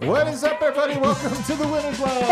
What is up, everybody? Welcome to the Winners Line.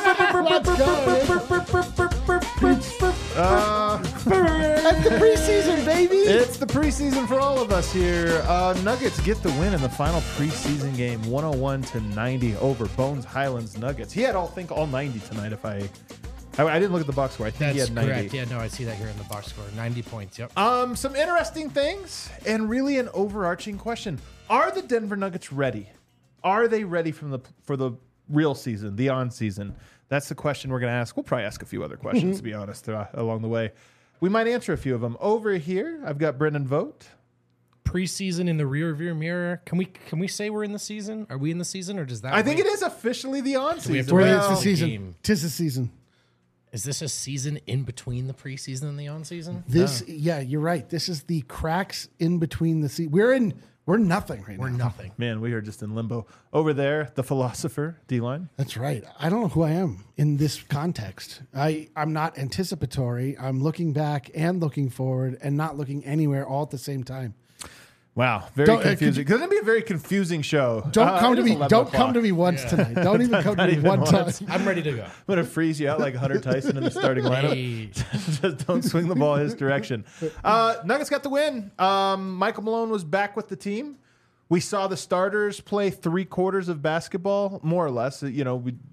That's the preseason, baby. It's the preseason for all of us here. Nuggets get the win in the final preseason game, 101-90 over Bones Highlands Nuggets. He had all 90 tonight. If I didn't look at the box score. I think he That's had 90. correct. Yeah, no, I see that here in the box score. 90 points. Yep. Some interesting things and really an overarching question. Are the Denver Nuggets ready? Are they ready for the real season, the on season? That's the question we're going to ask. We'll probably ask a few other questions, to be honest, along the way. We might answer a few of them. Over here, I've got Brendan Vogt. Preseason in the rearview mirror. Can we say we're in the season? Are we in the season, or does that? I think it is officially the on we have season. to It's the Well, season. game. Tis the season. Is this a season in between the preseason and the on season? Yeah, you're right. This is the cracks in between the season. We're nothing right We're now. nothing. Man, we are just in limbo. Over there, the philosopher, D-Line. That's right. I don't know who I am in this context. I'm not anticipatory. I'm looking back and looking forward and not looking anywhere all at the same time. Wow, very Don't- confusing. It's going to be a very confusing show. Don't come it to is me. 11 Don't come o'clock. to me once tonight. Don't even come to me even one time. once. I'm ready to go. I'm going to freeze you out like Hunter Tyson in the starting lineup. Hey, Just don't swing the ball his direction. Nuggets got the win. Michael Malone was back with the team. We saw the starters play 3/4 of basketball, more or less. We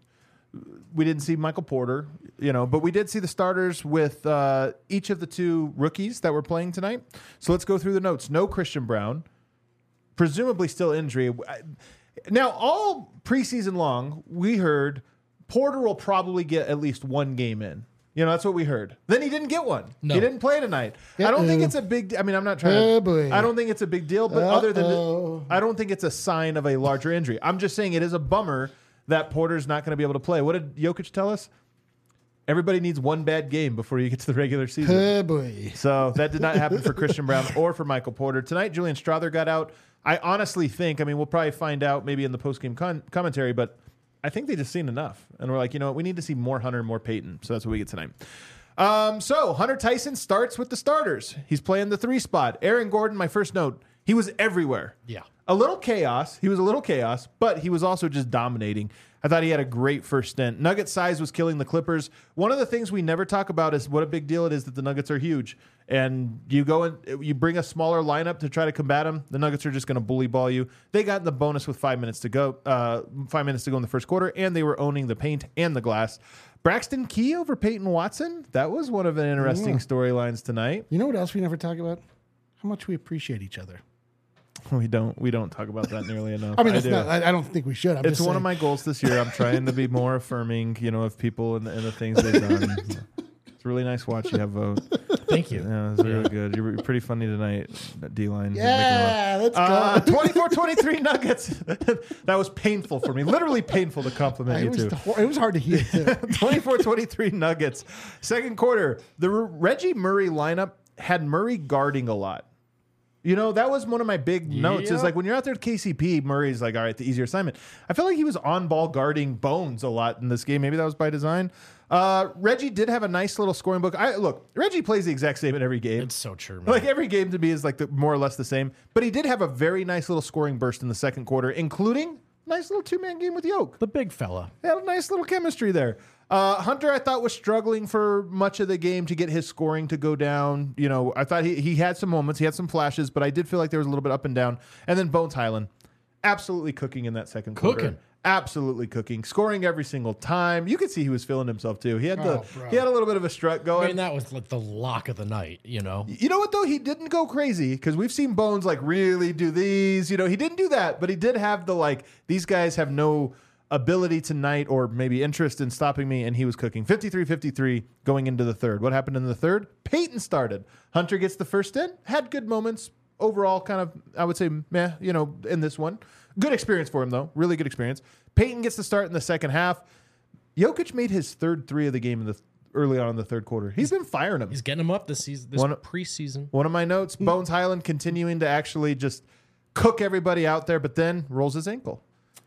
didn't see Michael Porter, but we did see the starters with each of the two rookies that were playing tonight. So let's go through the notes. No Christian Brown, presumably still injury. Now, all preseason long, we heard Porter will probably get at least one game in. That's what we heard. Then he didn't get one. No. He didn't play tonight. I don't think it's a big. I'm not trying Oh, to. boy. I don't think it's a big deal. But other than, I don't think it's a sign of a larger injury. I'm just saying it is a bummer that Porter's not going to be able to play. What did Jokic tell us? Everybody needs one bad game before you get to the regular season. Oh, boy. So that did not happen for Christian Brown or for Michael Porter. Tonight, Julian Strother got out. I honestly think, we'll probably find out maybe in the post-game commentary, but I think they just seen enough. And we're like, you know what? We need to see more Hunter and more Peyton. So that's what we get tonight. So Hunter Tyson starts with the starters. He's playing the 3 spot. Aaron Gordon, my first note, he was everywhere. yeah. A little chaos. He was a little chaos, but he was also just dominating. I thought he had a great first stint. Nugget size was killing the Clippers. One of the things we never talk about is what a big deal it is that the Nuggets are huge. And you go and you bring a smaller lineup to try to combat them. The Nuggets are just going to bully ball you. They got in the bonus with 5 minutes to go. 5 minutes to go in the first quarter, and they were owning the paint and the glass. Braxton Key over Peyton Watson. That was one of the interesting storylines tonight. You know what else we never talk about? How much we appreciate each other. We don't talk about that nearly enough. I do. I don't think we should. It's one of my goals this year. I'm trying to be more affirming, of people and the things they've done. It's a really nice watch you have vote. Thank you. Yeah, it's really good. You're pretty funny tonight, D-Line. Yeah, let's go. 24-23 Nuggets. That was painful for me. Literally painful to compliment you two. It was hard to hear, too. 24-23 Nuggets. Second quarter, the Reggie Murray lineup had Murray guarding a lot. That was one of my big notes is like when you're out there at KCP, Murray's like, all right, the easier assignment. I feel like he was on ball guarding Bones a lot in this game. Maybe that was by design. Reggie did have a nice little scoring book. Look, Reggie plays the exact same in every game. It's so true, man. Like every game to me is like more or less the same. But he did have a very nice little scoring burst in the second quarter, including a nice little 2-man game with Yoke. The big fella. They had a nice little chemistry there. Hunter, I thought, was struggling for much of the game to get his scoring to go down. I thought he had some moments, he had some flashes, but I did feel like there was a little bit up and down. And then Bones Highland, absolutely cooking in that second quarter. Cooking. Absolutely cooking, scoring every single time. You could see he was feeling himself too. He had bro. he had a little bit of a strut going. That was like the lock of the night, You know what though? He didn't go crazy because we've seen Bones like really do these. He didn't do that, but he did have the these guys have no ability tonight or maybe interest in stopping me, and he was cooking. 53-53 going into the third. What happened in the third? Peyton started. Hunter gets the first in, had good moments. Overall, kind of, I would say, meh, in this one. Good experience for him, though. Really good experience. Peyton gets to start in the second half. Jokic made his third 3 of the game early on in the third quarter. He's been firing them. He's getting them up this season, preseason. One of my notes, Bones Highland continuing to actually just cook everybody out there, but then rolls his ankle.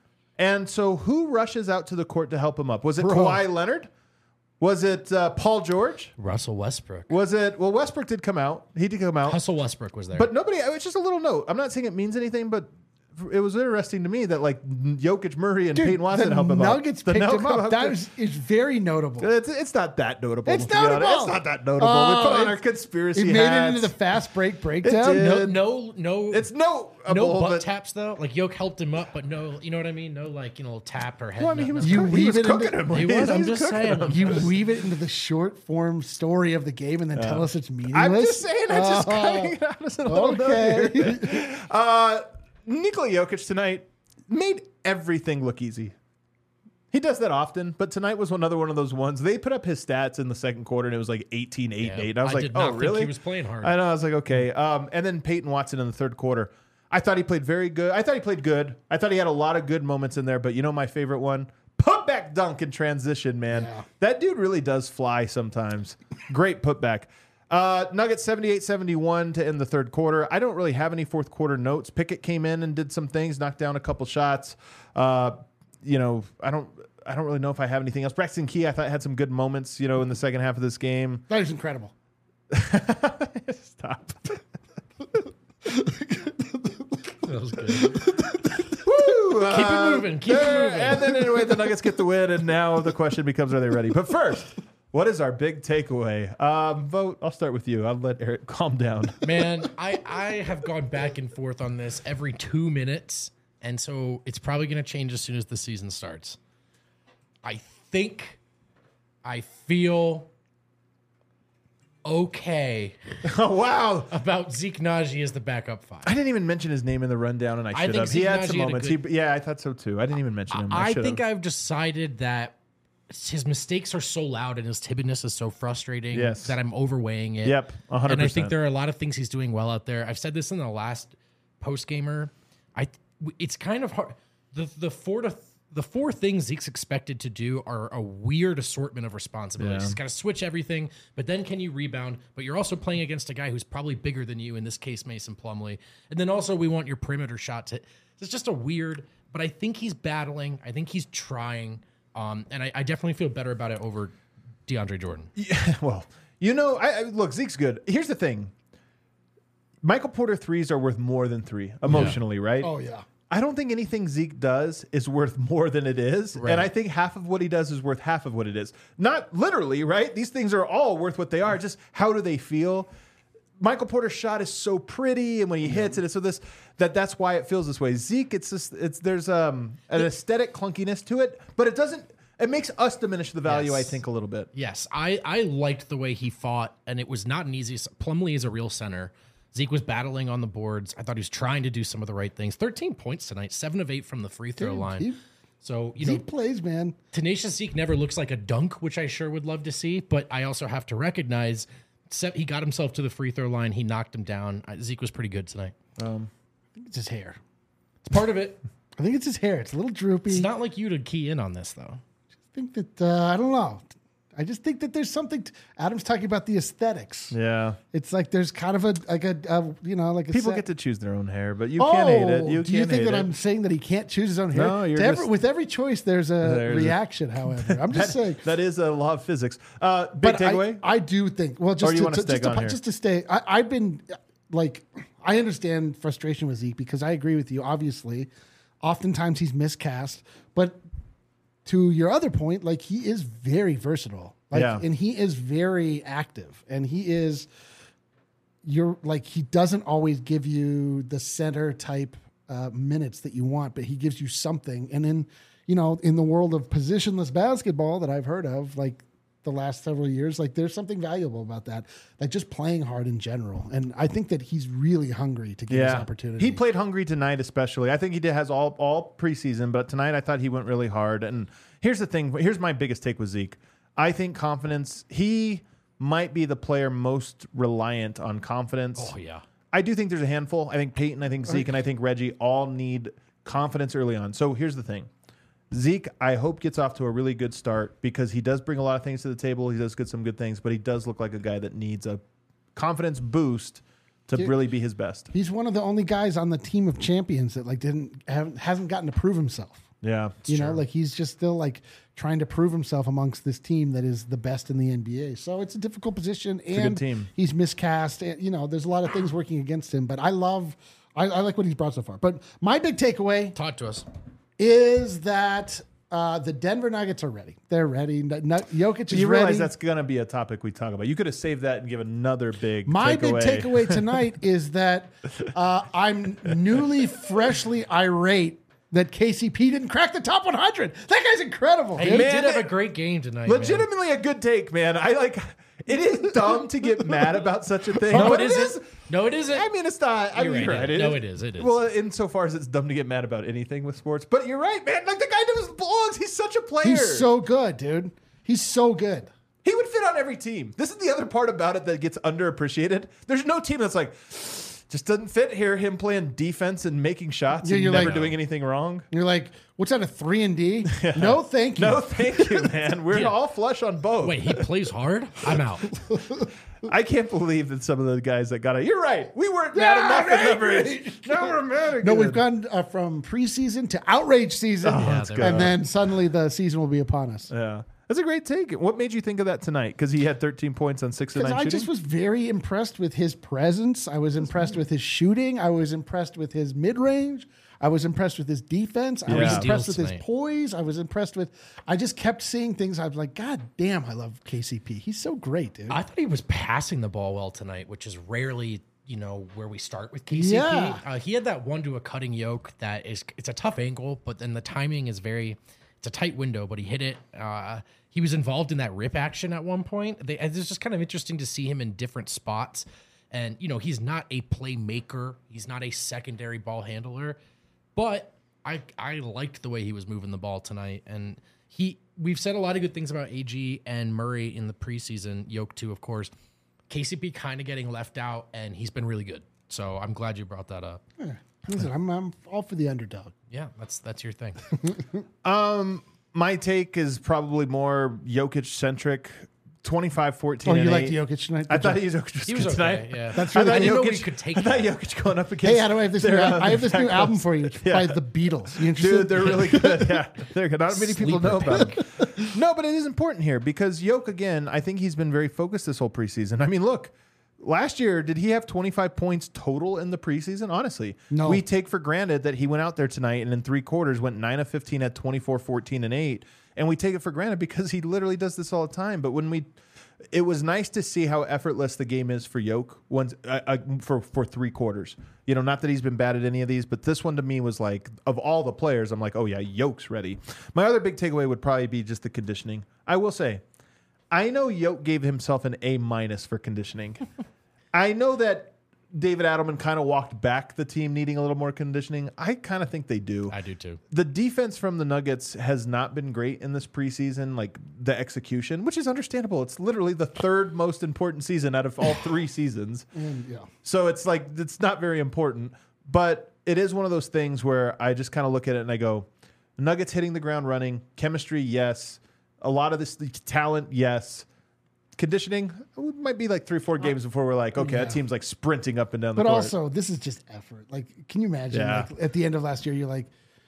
And so who rushes out to the court to help him up? Was it Kawhi Leonard? Was it Paul George? Russell Westbrook. Was it? Well, Westbrook did come out. He did come out. Russell Westbrook was there. But nobody, it's just a little note. I'm not saying it means anything, but it was interesting to me that like Jokic, Murray, and Peyton Watson the help him out. Nuggets picked him up. That is very notable. It's not that notable. It's to be honest. notable. It's not that notable. We put on our conspiracy It made hats. it into the fast break breakdown. did. No. It's no butt taps though. Like Yoke helped him up, but no, you know what I mean. No, like tap or head. Well, I mean, he was, You he weave was it cooking into- him. He was. I'm He's just cooking saying. him. You weave it into the short form story of the game and then tell us it's meaningless. I'm just saying. I'm just cutting it out as a little note Okay. here. Nikola Jokic tonight made everything look easy. He does that often, but tonight was another one of those ones. They put up his stats in the second quarter, and it was like 18, 8, and 8. I was like, did not oh, think really? he was playing hard. I know. I was like, okay. And then Peyton Watson in the third quarter. I thought he played very good. I thought he played good. I thought he had a lot of good moments in there, but you know my favorite one? Putback dunk in transition, man. Yeah. That dude really does fly sometimes. Great putback. Nuggets 78-71 to end the third quarter. I don't really have any fourth quarter notes. Pickett came in and did some things, knocked down a couple shots. I don't really know if I have anything else. Braxton Key, I thought had some good moments, in the second half of this game. That was incredible. Stop. That was good. Woo! Keep it moving. Keep it moving. And then anyway, the Nuggets get the win, and now the question becomes, are they ready? But first, what is our big takeaway? Vote. I'll start with you. I'll let Eric calm down. Man, I have gone back and forth on this every 2 minutes, and so it's probably going to change as soon as the season starts. I feel okay Oh, wow. about Zeke Naji as the backup five. I didn't even mention his name in the rundown, and I should think have. He Zeke had Naji some had a moments. good- Yeah, I thought so too. I didn't even mention him. I should think have. I've decided that his mistakes are so loud and his timidness is so frustrating Yes. that I'm overweighing it. Yep, 100%. And I think there are a lot of things he's doing well out there. I've said this in the last post gamer. It's kind of hard. The four things Zeke's expected to do are a weird assortment of responsibilities. Yeah. He's got to switch everything, but then can you rebound? But you're also playing against a guy who's probably bigger than you, in this case, Mason Plumlee. And then also we want your perimeter shot to. It's just a weird, but I think he's battling. I think he's trying. And I definitely feel better about it over DeAndre Jordan. Yeah, well, look, Zeke's good. Here's the thing. Michael Porter threes are worth more than three emotionally, right? Oh, yeah. I don't think anything Zeke does is worth more than it is. Right. And I think half of what he does is worth half of what it is. Not literally, right? These things are all worth what they are. Just how do they feel? Michael Porter's shot is so pretty, and when he hits it, it's so that's why it feels this way. Zeke, there's an aesthetic clunkiness to it, but it makes us diminish the value, Yes. I think, a little bit. Yes, I liked the way he fought, and it was not an easy. Plumlee is a real center. Zeke was battling on the boards. I thought he was trying to do some of the right things. 13 points tonight, 7 of 8 from the free throw line. So, Zeke plays, man. tenacious Zeke never looks like a dunk, which I sure would love to see, but I also have to recognize he got himself to the free throw line. He knocked him down. Zeke was pretty good tonight. I think it's his hair. It's part of it. I think it's his hair. It's a little droopy. It's not like you to key in on this, though. I think that, I don't know. I just think that there's something. Adam's talking about the aesthetics. Yeah. It's like there's kind of a People get to choose their own hair, but you can't hate it. do you can't think hate that it. I'm saying that he can't choose his own hair? No, you're with every choice, there's a reaction. However, I'm just saying. That is a law of physics. Big But takeaway? I do think. Well, just Or you wanna stay on here? just to stay. I've been like, I understand frustration with Zeke because I agree with you. Obviously, oftentimes he's miscast, but to your other point, like he is very versatile. And he is very active, and he is. He doesn't always give you the center type minutes that you want, but he gives you something. And then, in the world of positionless basketball that I've heard of, like the last several years, like there's something valuable about that, like just playing hard in general. And I think that he's really hungry to get his opportunity. He played hungry tonight, especially. I think he has all preseason, but tonight I thought he went really hard. And here's the thing. Here's my biggest take with Zeke. I think confidence. He might be the player most reliant on confidence. Oh, yeah. I do think there's a handful. I think Peyton, I think Zeke, and I think Reggie all need confidence early on. So here's the thing. Zeke, I hope, gets off to a really good start because he does bring a lot of things to the table. He does get some good things, but he does look like a guy that needs a confidence boost to really be his best. He's one of the only guys on the team of champions that hasn't gotten to prove himself. Yeah. He's just still trying to prove himself amongst this team that is the best in the NBA. So it's a difficult position, and a good team. He's miscast. And, there's a lot of things working against him. But I love I like what he's brought so far. But my big takeaway Talk to us. is that the Denver Nuggets are ready. They're ready. Jokic is You ready. realize that's going to be a topic we talk about. You could have saved that and give another big My takeaway. big takeaway tonight is that I'm newly, freshly irate that KCP didn't crack the top 100. That guy's incredible. Hey, dude. he Man, did have a great game tonight. man. Legitimately a good take, man. It is dumb to get mad about such a thing. No, but it isn't. No, it isn't. I mean, it's not. I You're mean, right. you're right. No, it is. It is. Well, insofar as it's dumb to get mad about anything with sports. But you're right, man. Like, the guy knows blogs. He's such a player. He's so good, dude. He's so good. He would fit on every team. This is the other part about it that gets underappreciated. There's no team that's like, just doesn't fit here. Him playing defense and making shots Yeah, and you're never like- doing anything wrong. You're like, what's that, a 3-and-D? No, thank you. No, thank you, man. We're Yeah. all flush on both. Wait, he plays hard? I'm out. I can't believe that some of the guys that got it. You're right. We weren't mad enough at leverage. Now we're mad again. No, we've gone from preseason to outrage season. that's good. And then suddenly the season will be upon us. Yeah. That's a great take. What made you think of that tonight? Because he had 13 points on 6 of 9 Because I shooting? just was very impressed with his presence. I was impressed with his shooting. I was impressed with his mid-range. I was impressed with his defense. I was Yeah. impressed with Steals his tonight. poise. I was impressed with. I just kept seeing things. I was like, God damn, I love KCP. He's so great, dude. I thought he was passing the ball well tonight, which is rarely, where we start with KCP. Yeah. He had that one to a cutting yoke it's a tough angle, but then the timing is it's a tight window, but he hit it. He was involved in that rip action at one point. It's just kind of interesting to see him in different spots. And, he's not a playmaker. He's not a secondary ball handler, but I liked the way he was moving the ball tonight. And we've said a lot of good things about AG and Murray in the preseason, Yoke too, of course. KCP kind of getting left out, and he's been really good. So I'm glad you brought that up. Listen, I'm all for the underdog. Yeah, that's your thing. My take is probably more Jokic centric. 25, 14, Oh, you and liked 8. Jokic tonight? I Good thought job. Jokic was He was good okay. tonight. Yeah, That's I really thought I didn't know Jokic we could take I thought that. Jokic going up against. Hey, Adam, I have this new, I have this new album for you. It's by the Beatles. You interested? Dude, they're really good. Yeah, they're good. Not many people Sleeper know about them. No, but it is important here because Yoke, again, I think he's been very focused this whole preseason. I mean, look, last year, did he have 25 points total in the preseason? Honestly, No. We take for granted that he went out there tonight and in 3 quarters went 9 of 15 at 24, 14, and 8. And we take it for granted because he literally does this all the time. But it was nice to see how effortless the game is for Yoke for 3 quarters. Not that he's been bad at any of these, but this one to me was like, of all the players, I'm like, oh yeah, Yoke's ready. My other big takeaway would probably be just the conditioning. I will say, I know Yoke gave himself an A- for conditioning. I know that David Adelman kind of walked back the team needing a little more conditioning. I kind of think they do. I do too. The defense from the Nuggets has not been great in this preseason, like the execution, which is understandable. It's literally the 3rd most important season out of all 3 seasons. Yeah. So it's like, it's not very important, but it is one of those things where I just kind of look at it and I go, Nuggets hitting the ground running, chemistry, yes. A lot of this talent, yes. Conditioning, it might be like 3-4 games before we're like, okay, that team's like sprinting up and down the But court. also, this is just effort. Like, can you imagine? Yeah. Like, at the end of last year, you're like,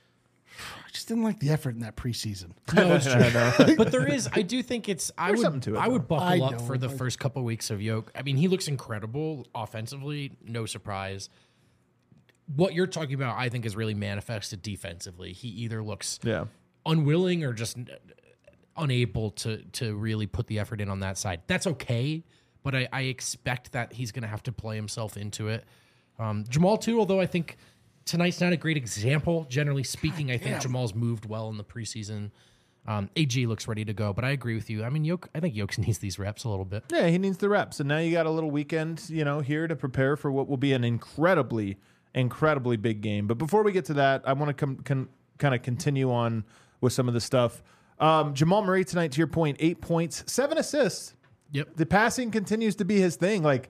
I just didn't like the effort in that preseason. No, it's true. But I do think There's something to it, I would though. I buckle up know, for the like- first couple weeks of Yoke. I mean, he looks incredible offensively, no surprise. What you're talking about, I think, is really manifested defensively. He either looks Yeah. unwilling or just unable to really put the effort in on that side. That's okay, but I expect that he's going to have to play himself into it. Jamal too, although I think tonight's not a great example. Generally speaking, I think Jamal's moved well in the preseason. AG looks ready to go, but I agree with you. I mean, I think Yoke needs these reps a little bit. Yeah, he needs the reps. And now you got a little weekend, here to prepare for what will be an incredibly big game. But before we get to that, I want to kind of continue on with some of the stuff. Jamal Murray tonight, to your point, 8 points, 7 assists. Yep. The passing continues to be his thing. Like,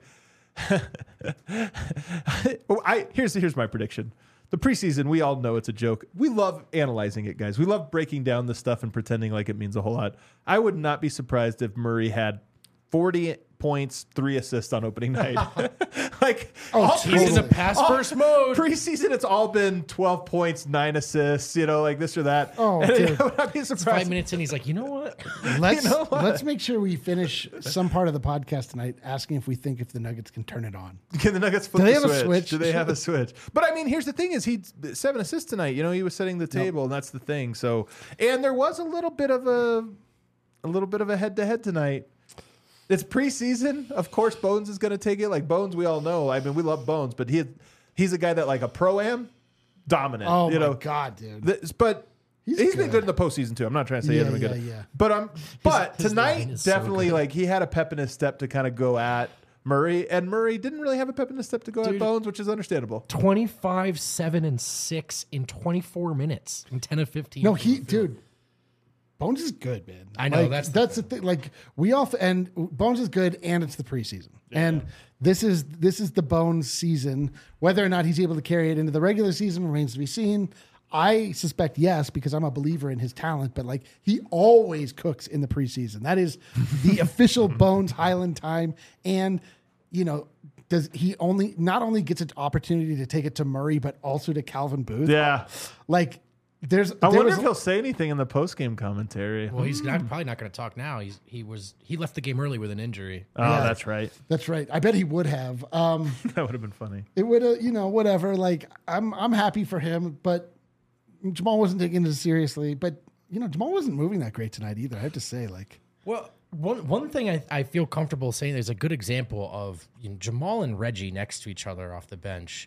here's my prediction. The preseason, we all know it's a joke. We love analyzing it, guys. We love breaking down the stuff and pretending like it means a whole lot. I would not be surprised if Murray had 40 points, 3 assists on opening night. Like, He's in a pass first mode. Preseason, it's all been 12 points, 9 assists, like this or that. Oh, and dude. I'd be surprised. 5 minutes in, he's like, you know what? Let's make sure we finish some part of the podcast tonight asking if we think if the Nuggets can turn it on. Can the Nuggets flip Do they the have a switch? switch? Do they have a switch? But I mean, here's the thing: is he 7 assists tonight? He was setting the table, and that's the thing. So, and there was a little bit of a head-to-head tonight. It's preseason. Of course, Bones is going to take it. Like Bones, we all know. I mean, we love Bones, but he's a guy that like a pro-am dominant. Oh my God, dude! But he's been good. good in the postseason too. I'm not trying to say he hasn't been good. Yeah. But his line tonight, is so definitely, good. like he had a pep in his step to kind of go at Murray, and Murray didn't really have a pep in his step to go at Bones, which is understandable. 25, 7, and 6 in 24 minutes in 10 of 15. No, dude. Bones is good, man. I know, Like, that's the thing. Like and Bones is good, and it's the preseason, and this is the Bones season. Whether or not he's able to carry it into the regular season remains to be seen. I suspect yes, because I'm a believer in his talent, but like he always cooks in the preseason. That is the official Bones Highland time, and does he not only gets an opportunity to take it to Murray, but also to Calvin Booth? Yeah. Like. I wonder if he'll say anything in the post-game commentary. Well, he's probably not going to talk now. He left the game early with an injury. Oh, Yeah. that's right. That's right. I bet he would have. That would have been funny. It would have, whatever. Like I'm happy for him, but Jamal wasn't taking it seriously. But Jamal wasn't moving that great tonight either. I have to say, like, Well, one thing I feel comfortable saying, there's a good example of Jamal and Reggie next to each other off the bench.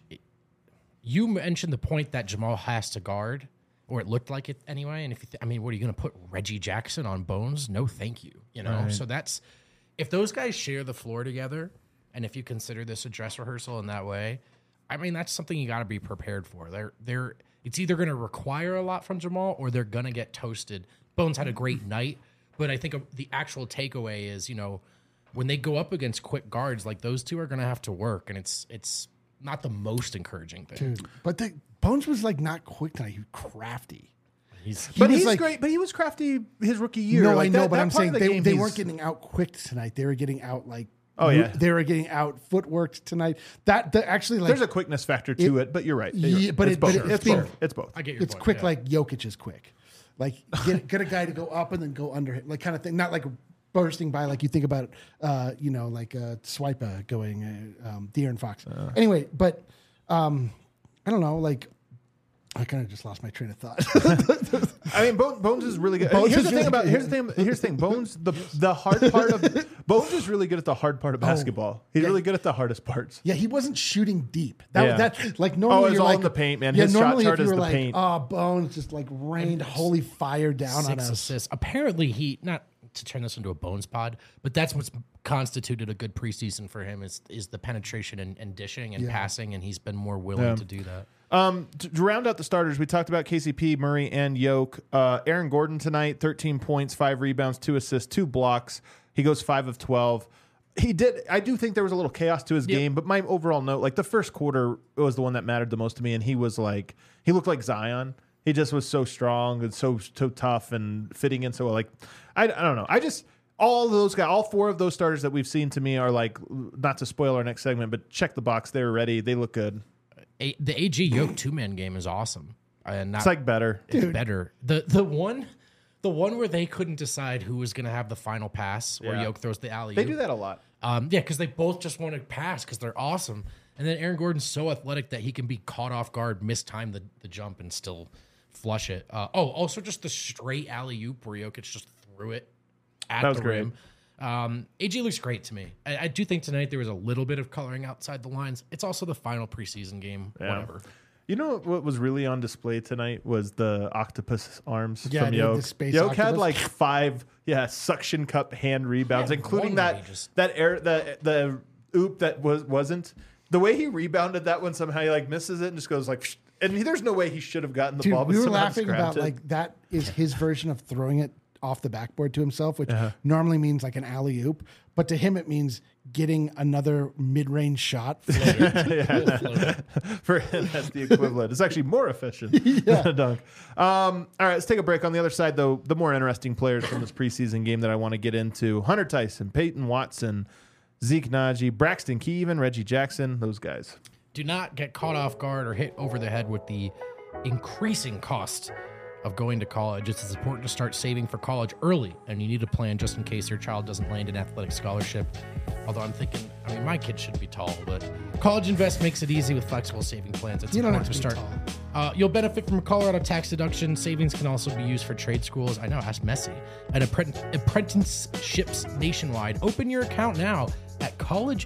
You mentioned the point that Jamal has to guard, or it looked like it anyway. And if you what are you going to put Reggie Jackson on Bones? No, thank you. Right. So that's, if those guys share the floor together, and if you consider this a dress rehearsal in that way, that's something you got to be prepared for. It's either going to require a lot from Jamal, or they're going to get toasted. Bones had a great night, but I think the actual takeaway is, when they go up against quick guards, like those two are going to have to work, and it's not the most encouraging thing. dude. But Bones was like not quick tonight. He was crafty. He's Great. But he was crafty his rookie year. No, Like, I know, that but I'm part of saying the game, they he's- weren't getting out quick tonight. They were getting out like. Oh, yeah. They were getting out footworked tonight. That actually like There's a quickness factor to it, but you're right. Yeah, but it's it- both. but It's it's both. It's both. I get your it's point, quick yeah. like Jokic is quick. Like get a guy to go up and then go under him, like kind of thing. Not like bursting by like you think about like Swipa going De'Aaron Fox. Anyway, but I don't know, like I kind of just lost my train of thought. Bones is really good. Bones Here's is the thing really about good. here's the thing. Bones the hard part of Bones is really good at the hard part of basketball. He's yeah. really good at the hardest parts. Yeah, he wasn't shooting deep. Yeah. That like normally it's you're all like in the paint, man. Yeah, His shot normally chart if you is were the like, paint. oh, Bones just like rained holy fire down on 6 us. assists. Apparently, he, not to turn this into a Bones pod, but that's what's constituted a good preseason for him is the penetration and dishing and passing, and he's been more willing to do that. To round out the starters, we talked about KCP, Murray, and Yoke. Aaron Gordon tonight, 13 points, 5 rebounds, 2 assists, 2 blocks. He goes 5 of 12. I do think there was a little chaos to his game, but my overall note, like the first quarter was the one that mattered the most to me, and he looked like Zion. He just was so strong and so tough and fitting in so well. Like, I don't know. All those guys, all 4 of those starters that we've seen to me are like, not to spoil our next segment, but check the box. They're ready. They look good. The AG Yoke 2-man game is awesome. It's like better. It's better. The one where they couldn't decide who was going to have the final pass, where Yeah. Yoke throws the alley. They do that a lot. Because they both just want to pass because they're awesome. And then Aaron Gordon's so athletic that he can be caught off guard, mistime the jump, and still flush it. Also just the straight alley oop where Jokic just threw it at That was the great. rim. AG looks great to me. I do think tonight there was a little bit of coloring outside the lines. It's also the final preseason game. Yeah. Whatever. You know what was really on display tonight was the octopus arms Yeah, from dude, Yoke. the space Yoke had octopus. like 5 suction cup hand rebounds, Yeah, including one that where he just- the oop that wasn't. The way he rebounded that one, somehow he like misses it and just goes like, and there's no way he should have gotten the Dude, ball. But we were somehow laughing just about grabbed it. like that is his version of throwing it off the backboard to himself, which normally means like an alley oop, but to him it means getting another mid-range shot. For him, that's the equivalent. It's actually more efficient than a dunk. All right, let's take a break. On the other side, though, the more interesting players from this preseason game that I want to get into: Hunter Tyson, Peyton Watson, Zeke Najee, Braxton Keevan, Reggie Jackson, those guys. Do not get caught off guard or hit over the head with the increasing cost of going to college. It's important to start saving for college early, and you need a plan just in case your child doesn't land an athletic scholarship. Although I'm thinking, my kid should be tall, but College Invest makes it easy with flexible saving plans. It's You don't important have to to be start. You'll benefit from a Colorado tax deduction. Savings can also be used for trade schools. I know, ask Messi. And apprenticeships nationwide. Open your account now at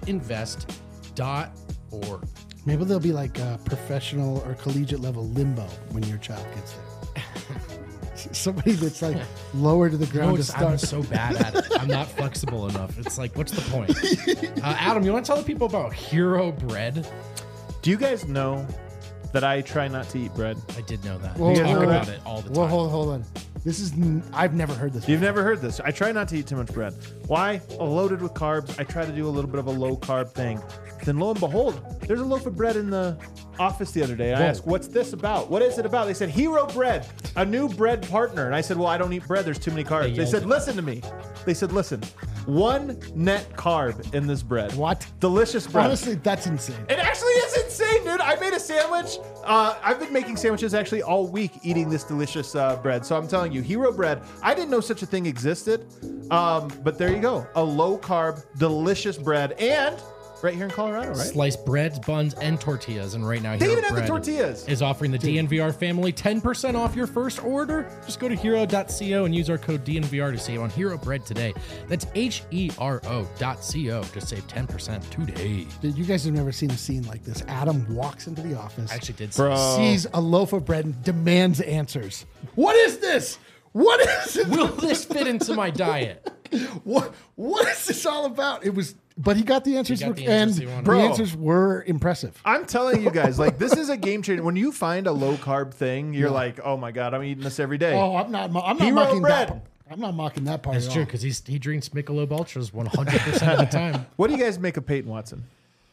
collegeinvest.org. Maybe there'll be like a professional or collegiate level limbo when your child gets there. Somebody that's like lower to the ground to I'm start. so bad at it. I'm not flexible enough. It's like, what's the point? Adam, you want to tell the people about Hero Bread? Do you guys know that I try not to eat bread? I did know that. Whoa, We You guys talk know about that? it all the time. Well, hold on. This is I've never heard this. You've before. never heard this. I try not to eat too much bread. Why? Loaded with carbs. I try to do a little bit of a low carb thing. Then lo and behold, there's a loaf of bread in the office the other day. I asked, what's this about? What is it about? They said, Hero Bread, a new bread partner. And I said, well, I don't eat bread. There's too many carbs. They said, listen to me. They said, listen, one net carb in this bread. What? Delicious bread. Honestly, that's insane. It actually is insane, dude. I made a sandwich. I've been making sandwiches actually all week eating this delicious bread. So I'm telling you, Hero Bread, I didn't know such a thing existed. But there you go. A low carb, delicious bread. And right here in Colorado, right? Sliced breads, buns, and tortillas. And right now, They Hero even have the Bread tortillas. is offering the DNVR family 10% off your first order. Just go to hero.co and use our code DNVR to save on Hero Bread today. That's HERO.co to save 10% today. Dude, you guys have never seen a scene like this. Adam walks into the office, I actually did Bro. sees a loaf of bread, and demands answers. What is this? What is it? Will this fit into my diet? What is this all about? It was, but he got the answers, got the and answers he wanted. the Bro. answers were impressive. I'm telling you guys, like, this is a game changer. When you find a low carb thing, you're like, oh my God, I'm eating this every day. Oh, I'm not Hero mocking bread. that. I'm not mocking that part. That's at true, all. because he drinks Michelob Ultras 100% of the time. What do you guys make of Peyton Watson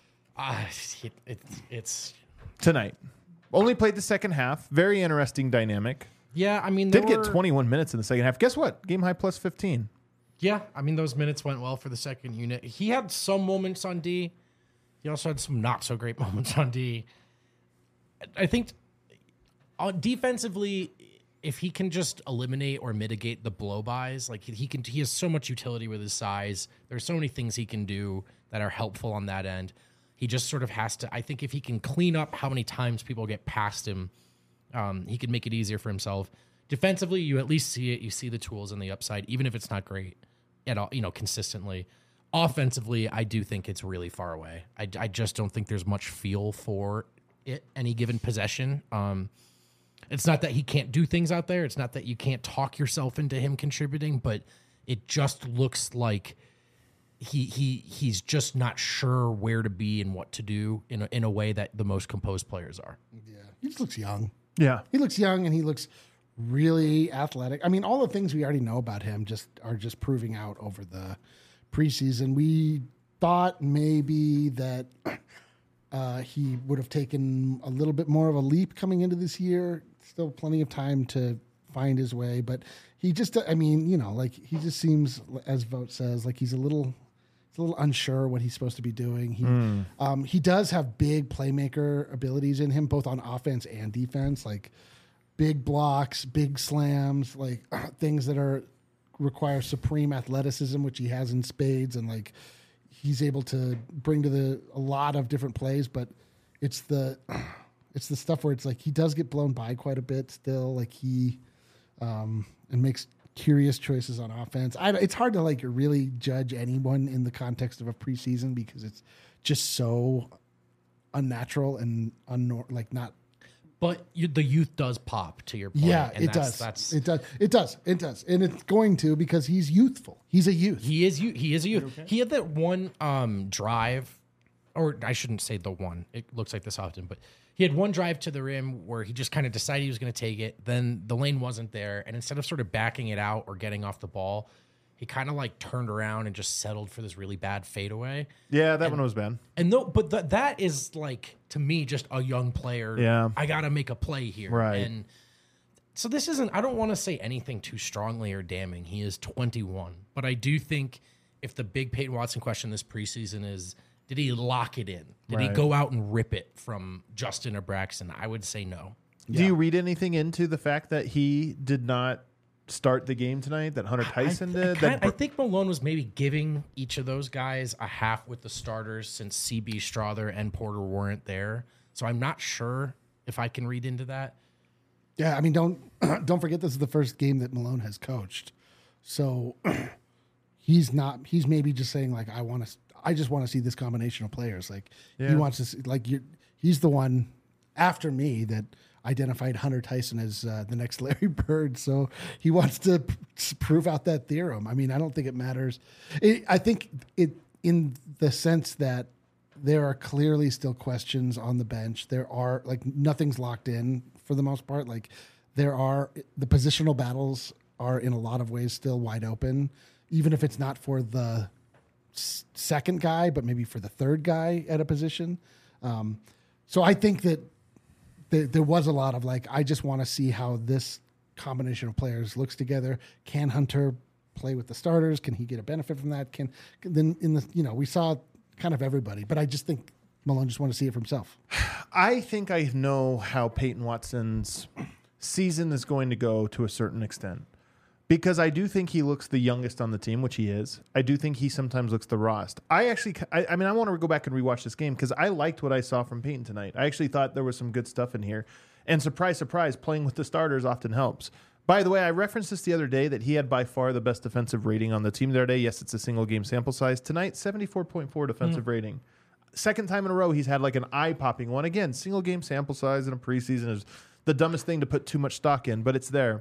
It's tonight? Only played the second half. Very interesting dynamic. yeah. I mean, Did get 21 minutes in the second half. Guess what? Game high plus 15. Yeah, I mean, those minutes went well for the second unit. He had some moments on D. He also had some not so great moments on D. I think defensively, if he can just eliminate or mitigate the blow-bys, like he has so much utility with his size. There's so many things he can do that are helpful on that end. He just sort of has to, I think if he can clean up how many times people get past him, he can make it easier for himself. Defensively, you at least see it. You see the tools and the upside, even if it's not great at all, consistently. Offensively, I do think it's really far away. I just don't think there's much feel for it any given possession. It's not that he can't do things out there. It's not that you can't talk yourself into him contributing, but it just looks like he's just not sure where to be and what to do in a way that the most composed players are. Yeah, he just looks young. Yeah. He looks young, and he looks really athletic. I mean, all the things we already know about him are just proving out over the preseason. We thought maybe that he would have taken a little bit more of a leap coming into this year. Still plenty of time to find his way, but he just, I mean, like he just seems, as Vogt says, like he's a little unsure what he's supposed to be doing. He does have big playmaker abilities in him, both on offense and defense, like big blocks, big slams, like things that require supreme athleticism, which he has in spades, and like he's able to bring to a lot of different plays. But it's the stuff where it's like he does get blown by quite a bit still, like he and makes curious choices on offense. It's hard to like really judge anyone in the context of a preseason because it's just so unnatural and not. But the youth does pop, to your point. Yeah, and it does. That's It does, and it's going to because he's youthful. He's a youth. He is a youth. Okay? He had that one drive, or I shouldn't say the one. It looks like this often, but he had one drive to the rim where he just kind of decided he was going to take it. Then the lane wasn't there, and instead of sort of backing it out or getting off the ball, he kind of like turned around and just settled for this really bad fadeaway. Yeah, that one was bad. And that is like, to me, just a young player. Yeah. I got to make a play here. Right. And so this isn't, I don't want to say anything too strongly or damning. He is 21, but I do think if the big Peyton Watson question this preseason is, did he lock it in? Did he Right. go out and rip it from Justin or Braxton? I would say no. Do you read anything into the fact that he did not start the game tonight, that Hunter Tyson did? I think Malone was maybe giving each of those guys a half with the starters since CB Strother and Porter weren't there. So I'm not sure if I can read into that. Yeah, I mean, don't forget this is the first game that Malone has coached, so he's maybe just saying like, I just want to see this combination of players. Like he wants to see, he's the one after me that identified Hunter Tyson as the next Larry Bird, so he wants to prove out that theorem. I mean, I don't think it matters. I think it in the sense that there are clearly still questions on the bench. There are nothing's locked in for the most part. Like there are the positional battles are in a lot of ways still wide open, even if it's not for the second guy, but maybe for the third guy at a position. So I think that there was a lot of I just want to see how this combination of players looks together. Can Hunter play with the starters? Can he get a benefit from that? We saw kind of everybody, but I just think Malone just wanted to see it for himself. I think I know how Peyton Watson's season is going to go to a certain extent, because I do think he looks the youngest on the team, which he is. I do think he sometimes looks the rawest. I want to go back and rewatch this game because I liked what I saw from Peyton tonight. I actually thought there was some good stuff in here. And surprise, surprise, playing with the starters often helps. By the way, I referenced this the other day that he had by far the best defensive rating on the team the other day. Yes, it's a single game sample size. Tonight, 74.4 defensive rating. Second time in a row, he's had an eye-popping one. Again, single game sample size in a preseason is the dumbest thing to put too much stock in, but it's there.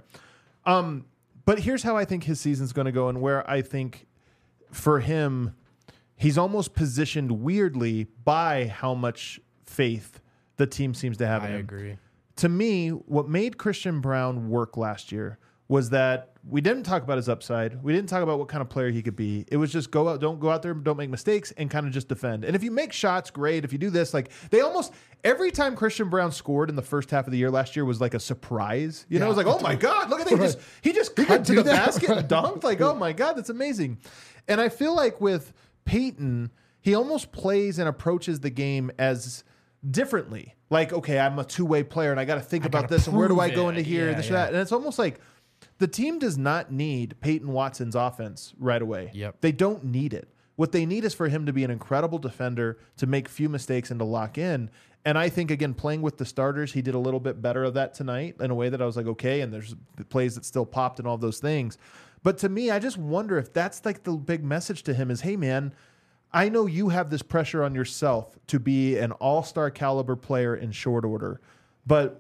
But here's how I think his season's going to go, and where I think for him, he's almost positioned weirdly by how much faith the team seems to have in him. I agree. To me, what made Christian Braun work last year was that we didn't talk about his upside. We didn't talk about what kind of player he could be. It was just don't go out there, don't make mistakes, and kind of just defend. And if you make shots, great. If you do this, they almost every time Christian Braun scored in the first half of the year last year was like a surprise. You know, it was like, oh my God, look at that. He just cut to the basket and dunked. Oh my God, that's amazing. And I feel like with Peyton, he almost plays and approaches the game as differently. Okay, I'm a two-way player and I got to think about this and where do I go into here and this or that. And it's almost like the team does not need Peyton Watson's offense right away. Yep. They don't need it. What they need is for him to be an incredible defender, to make few mistakes and to lock in. And I think, again, playing with the starters, he did a little bit better of that tonight in a way that I was like, okay, and there's the plays that still popped and all those things. But to me, I just wonder if that's the big message to him is, hey, man, I know you have this pressure on yourself to be an all-star caliber player in short order, but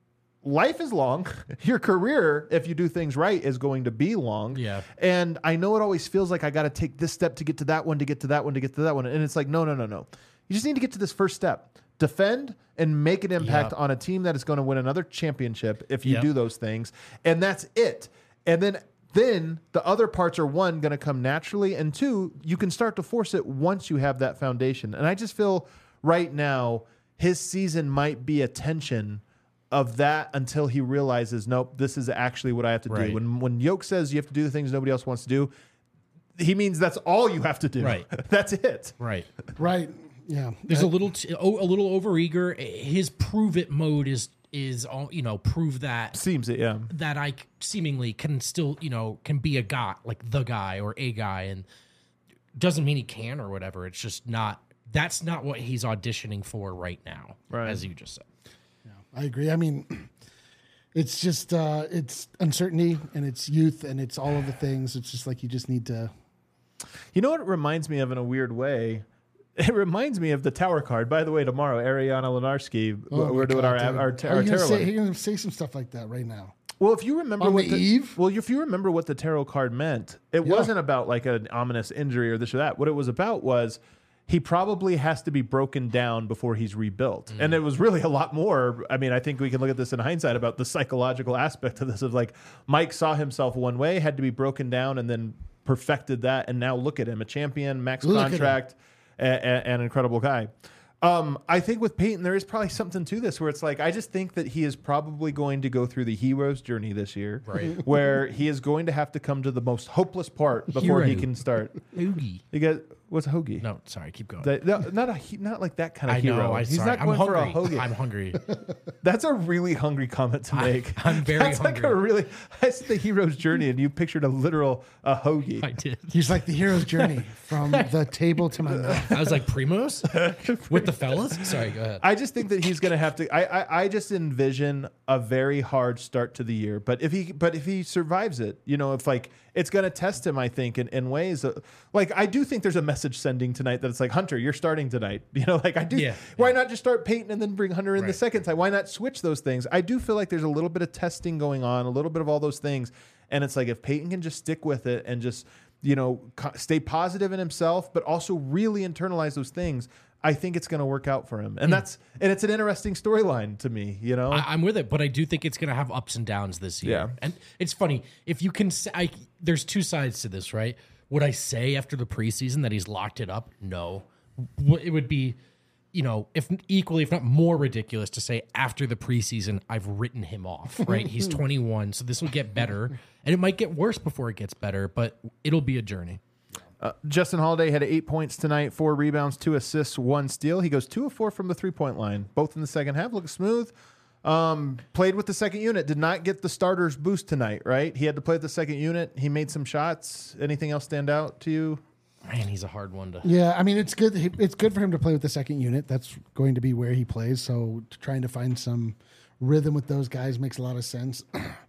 life is long. Your career, if you do things right, is going to be long. Yeah. And I know it always feels like I got to take this step to get to that one, to get to that one, to get to that one. And it's like, no. You just need to get to this first step. Defend and make an impact on a team that is going to win another championship if you do those things. And that's it. And then the other parts are, one, going to come naturally, and two, you can start to force it once you have that foundation. And I just feel right now his season might be a tension of that until he realizes, nope, this is actually what I have to do. When Yoke says you have to do the things nobody else wants to do, he means that's all you have to do. Right. That's it. Right. Yeah. There's a little overeager. His prove it mode is all, prove that Seems it, yeah. that I seemingly can still, can be a guy, the guy or a guy, and doesn't mean he can or whatever. It's just that's not what he's auditioning for right now, as you just said. I agree. I mean, it's just it's uncertainty and it's youth and it's all of the things. It's just you just need to. You know what it reminds me of in a weird way? It reminds me of the tower card. By the way, tomorrow, Ariana Lenarski, we're doing our tarot. You're going to say some stuff like that right now. Well, if you remember on the eve. Well, if you remember what the tarot card meant, it wasn't about an ominous injury or this or that. What it was about was he probably has to be broken down before he's rebuilt. And it was really a lot more. I mean, I think we can look at this in hindsight about the psychological aspect of this of Mike saw himself one way, had to be broken down and then perfected that. And now look at him, a champion, max contract, an incredible guy. I think with Peyton, there is probably something to this where it's like, I just think that he is probably going to go through the hero's journey this year, Right. where he is going to have to come to the most hopeless part before he Hero. can start. Oogie. You get what's a hoagie? No, sorry, keep going. Not like that kind of I hero. know. He's Sorry. not I'm going for a hungry. hoagie. I'm hungry. That's a really hungry comment to make. I'm very That's like a hungry. really. I said the hero's journey, and you pictured a literal hoagie. I did. He's like the hero's journey from the table to my mouth. I was like, Primos with the fellas. Sorry, go ahead. I just think that he's going to have to. I just envision a very hard start to the year. But if he survives it, if like it's going to test him, I think in ways like I do think there's a message sending tonight that it's like, Hunter, you're starting tonight. Like I do. Yeah. Why not just start Peyton and then bring Hunter in the Right. second time? Why not switch those things? I do feel like there's a little bit of testing going on, a little bit of all those things, and it's like if Peyton can just stick with it and just stay positive in himself, but also really internalize those things, I think it's going to work out for him. And it's an interesting storyline to me, I'm with it, but I do think it's going to have ups and downs this year. Yeah. And it's funny. If you can say, there's two sides to this, right? Would I say after the preseason that he's locked it up? No. It would be, if equally, if not more ridiculous to say after the preseason, I've written him off, right? He's 21, so this will get better. And it might get worse before it gets better, but it'll be a journey. Justin Holiday had 8 points tonight, 4 rebounds, 2 assists, 1 steal. He goes 2 of 4 from the 3-point line, both in the second half. Looks smooth. Played with the second unit. Did not get the starters boost tonight, right? He had to play with the second unit. He made some shots. Anything else stand out to you? Man, he's a hard one to. Yeah, I mean it's good. It's good for him to play with the second unit. That's going to be where he plays. So trying to find some rhythm with those guys makes a lot of sense.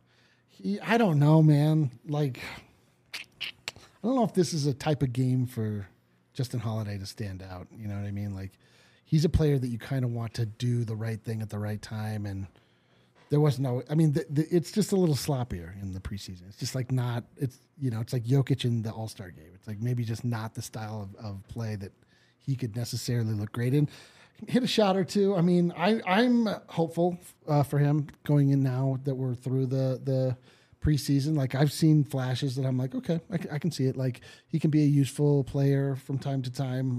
I don't know, man. Like, I don't know if this is a type of game for Justin Holiday to stand out. You know what I mean? Like, he's a player that you kind of want to do the right thing at the right time, and there was no. I mean, it's just a little sloppier in the preseason. It's just like not. It's it's like Jokic in the All-Star game. It's like maybe just not the style of play that he could necessarily look great in. Hit a shot or two. I mean, I'm hopeful for him going in now that we're through the preseason. Like, I've seen flashes that I'm like, okay, I can see it. Like, he can be a useful player from time to time.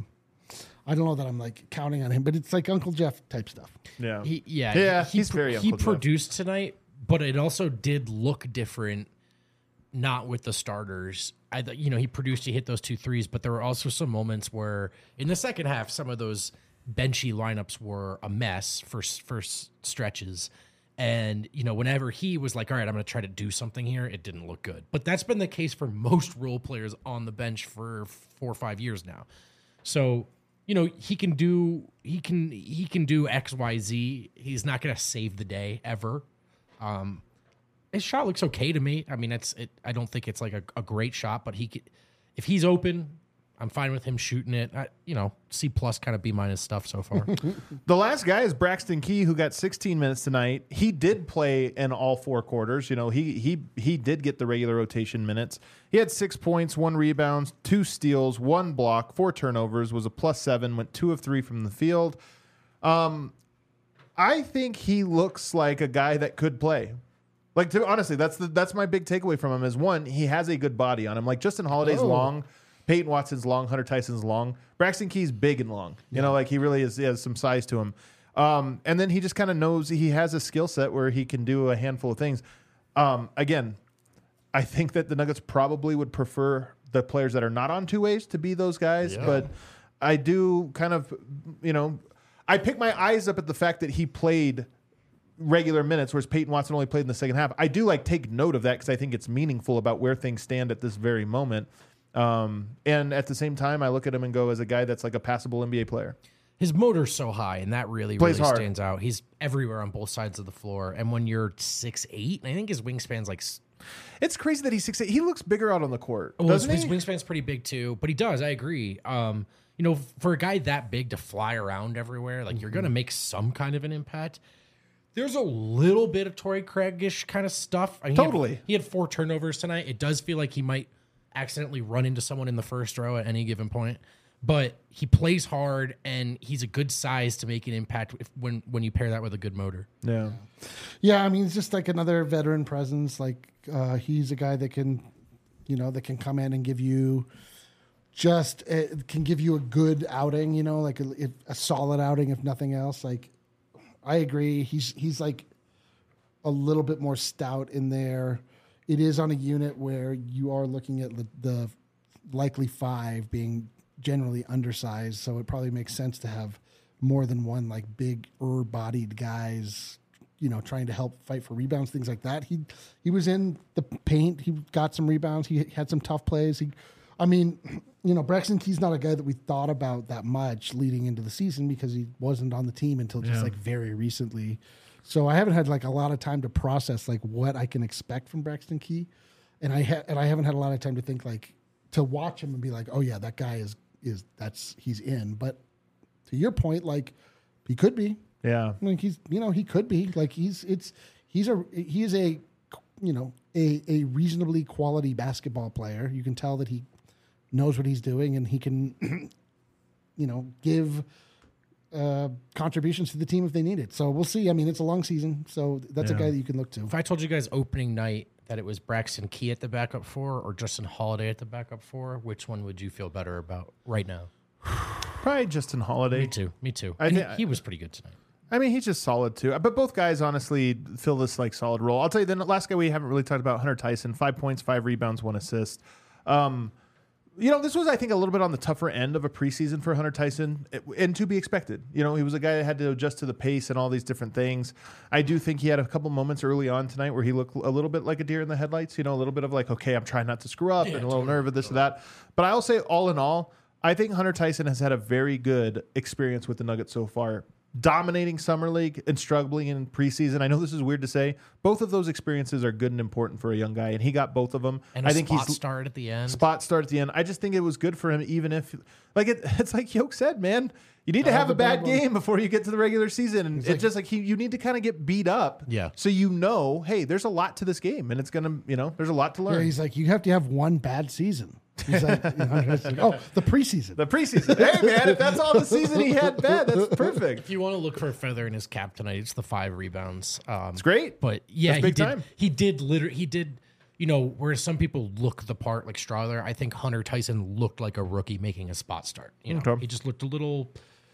I don't know that I'm like counting on him, but it's like Uncle Jeff type stuff. Yeah. He's very He Uncle Jeff. produced tonight, but it also did look different. Not with the starters. He produced, he hit those 2 threes, but there were also some moments where in the second half, some of those benchy lineups were a mess for stretches. And, whenever he was like, all right, I'm going to try to do something here, it didn't look good. But that's been the case for most role players on the bench for 4 or 5 years now. So, he can do X, Y, Z. He's not going to save the day ever. His shot looks okay to me. I mean, I don't think it's like a great shot, but if he's open, I'm fine with him shooting it. C+ kind of B- stuff so far. The last guy is Braxton Key, who got 16 minutes tonight. He did play in all 4 quarters. He did get the regular rotation minutes. He had 6 points, 1 rebound, 2 steals, 1 block, 4 turnovers, was a +7, went 2 of 3 from the field. I think he looks like a guy that could play. Like, honestly, that's my big takeaway from him is, one, he has a good body on him. Like, Justin Holiday's long, Peyton Watson's long, Hunter Tyson's long. Braxton Key's big and long. Like, he really he has some size to him. And then he just kind of knows he has a skill set where he can do a handful of things. Again, I think that the Nuggets probably would prefer the players that are not on 2 ways to be those guys. Yeah. But I do kind of, I pick my eyes up at the fact that he played regular minutes, whereas Peyton Watson only played in the second half. I do take note of that because I think it's meaningful about where things stand at this very moment. And at the same time, I look at him and go as a guy that's like a passable NBA player. His motor's so high, and that really hard. stands out. He's everywhere on both sides of the floor. And when you're 6'8", I think his wingspan's like. It's crazy that he's 6'8". He looks bigger out on the court, Well, doesn't his he? wingspan's pretty big too, but he does. I agree. For a guy that big to fly around everywhere, like you're going to make some kind of an impact. There's a little bit of Torrey Craig-ish kind of stuff. Totally. He had 4 turnovers tonight. It does feel like he might accidentally run into someone in the first row at any given point. But he plays hard, and he's a good size to make an impact when you pair that with a good motor. Yeah. Yeah, I mean, it's just like another veteran presence. Like, he's a guy that can, that can come in and give you just can give you a good outing, like a solid outing, if nothing else. Like, I agree. He's like a little bit more stout in there. It is on a unit where you are looking at the likely 5 being generally undersized, so it probably makes sense to have more than one like big bodied guys, trying to help fight for rebounds, things like that. He was in the paint. He got some rebounds. He had some tough plays. Braxton Key's not a guy that we thought about that much leading into the season because he wasn't on the team until just like very recently. So I haven't had like a lot of time to process like what I can expect from Braxton Key, and I haven't had a lot of time to think like to watch him and be like, oh yeah, that guy he's in. But to your point, like he could be. Yeah. Like he could be. Like he is a a reasonably quality basketball player. You can tell that he knows what he's doing and he can give contributions to the team if they need it. So we'll see. I mean, it's a long season, so that's a guy that you can look to. If I told you guys opening night that it was Braxton Key at the backup 4 or Justin Holiday at the backup 4, which one would you feel better about right now? Probably Justin Holiday. Me too. He was pretty good tonight. I mean, he's just solid too. But both guys honestly fill this like solid role. I'll tell you, the last guy we haven't really talked about, Hunter Tyson, 5 points, 5 rebounds, 1 assist. This was, I think, a little bit on the tougher end of a preseason for Hunter Tyson, and to be expected. He was a guy that had to adjust to the pace and all these different things. I do think he had a couple moments early on tonight where he looked a little bit like a deer in the headlights, a little bit of like, okay, I'm trying not to screw up and a little nerve of this or that. But I'll say all in all, I think Hunter Tyson has had a very good experience with the Nuggets so far. Dominating Summer League and struggling in preseason. I know this is weird to say. Both of those experiences are good and important for a young guy, and he got both of them. And I think spot start at the end. Spot start at the end. I just think it was good for him, even if, like it's like Yoke said, man. You need to have a bad game before you get to the regular season, and it's just like you need to kind of get beat up. Yeah. So hey, there's a lot to this game, and it's gonna, there's a lot to learn. Yeah, he's like, you have to have one bad season. He's like, the preseason. The preseason. Hey, man, if that's all the season he had bad, that's perfect. If you want to look for a feather in his cap tonight, it's the 5 rebounds. It's great. But yeah, time. He did, whereas some people look the part like Strawler, I think Hunter Tyson looked like a rookie making a spot start. Okay. He just looked a little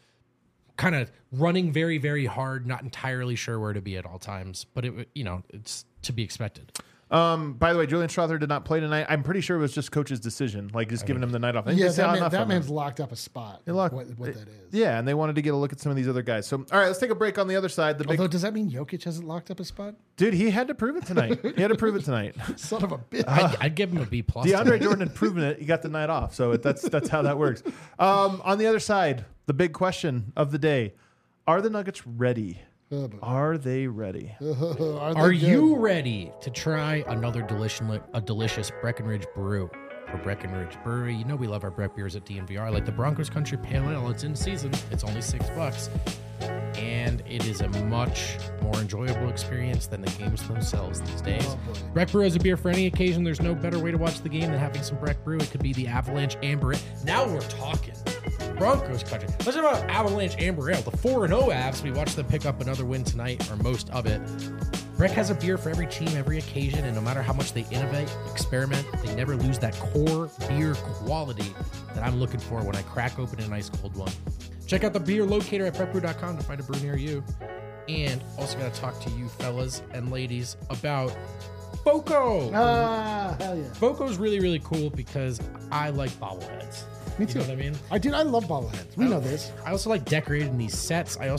kind of running very, very hard, not entirely sure where to be at all times. But it's to be expected. By the way, Julian Strawther did not play tonight. I'm pretty sure it was just coach's decision, like just giving him the night off. Yeah, that man's locked up a spot. What that is. Yeah, and they wanted to get a look at some of these other guys. So, all right, let's take a break on the other side. Although, does that mean Jokic hasn't locked up a spot? Dude, he had to prove it tonight. Son of a bitch. I'd give him a B+. DeAndre Jordan had proven it. He got the night off. So that's how that works. On the other side, the big question of the day: are the Nuggets ready? Are they ready? Are you ready to try another delicious Breckenridge brew? For Breckenridge Brewery, we love our Breck beers at DNVR. Like the Broncos Country Pale Ale, it's in season. It's only $6, and it is a much more enjoyable experience than the games themselves these days. Breck Brew is a beer for any occasion. There's no better way to watch the game than having some Breck Brew. It could be the Avalanche Amber Ale. Now we're talking. Broncos country. Let's talk about Avalanche Amber Ale. The 4-0 Avs. We watched them pick up another win tonight, or most of it. Breck has a beer for every team, every occasion, and no matter how much they innovate, experiment, they never lose that core beer quality that I'm looking for when I crack open an ice cold one. Check out the beer locator at breckbrew.com to find a brew near you. And also got to talk to you fellas and ladies about FOCO. Hell yeah. FOCO is really, really cool because I like bobbleheads. Me too. You know what I mean? I love bobbleheads. We know this. I also like decorating these sets. I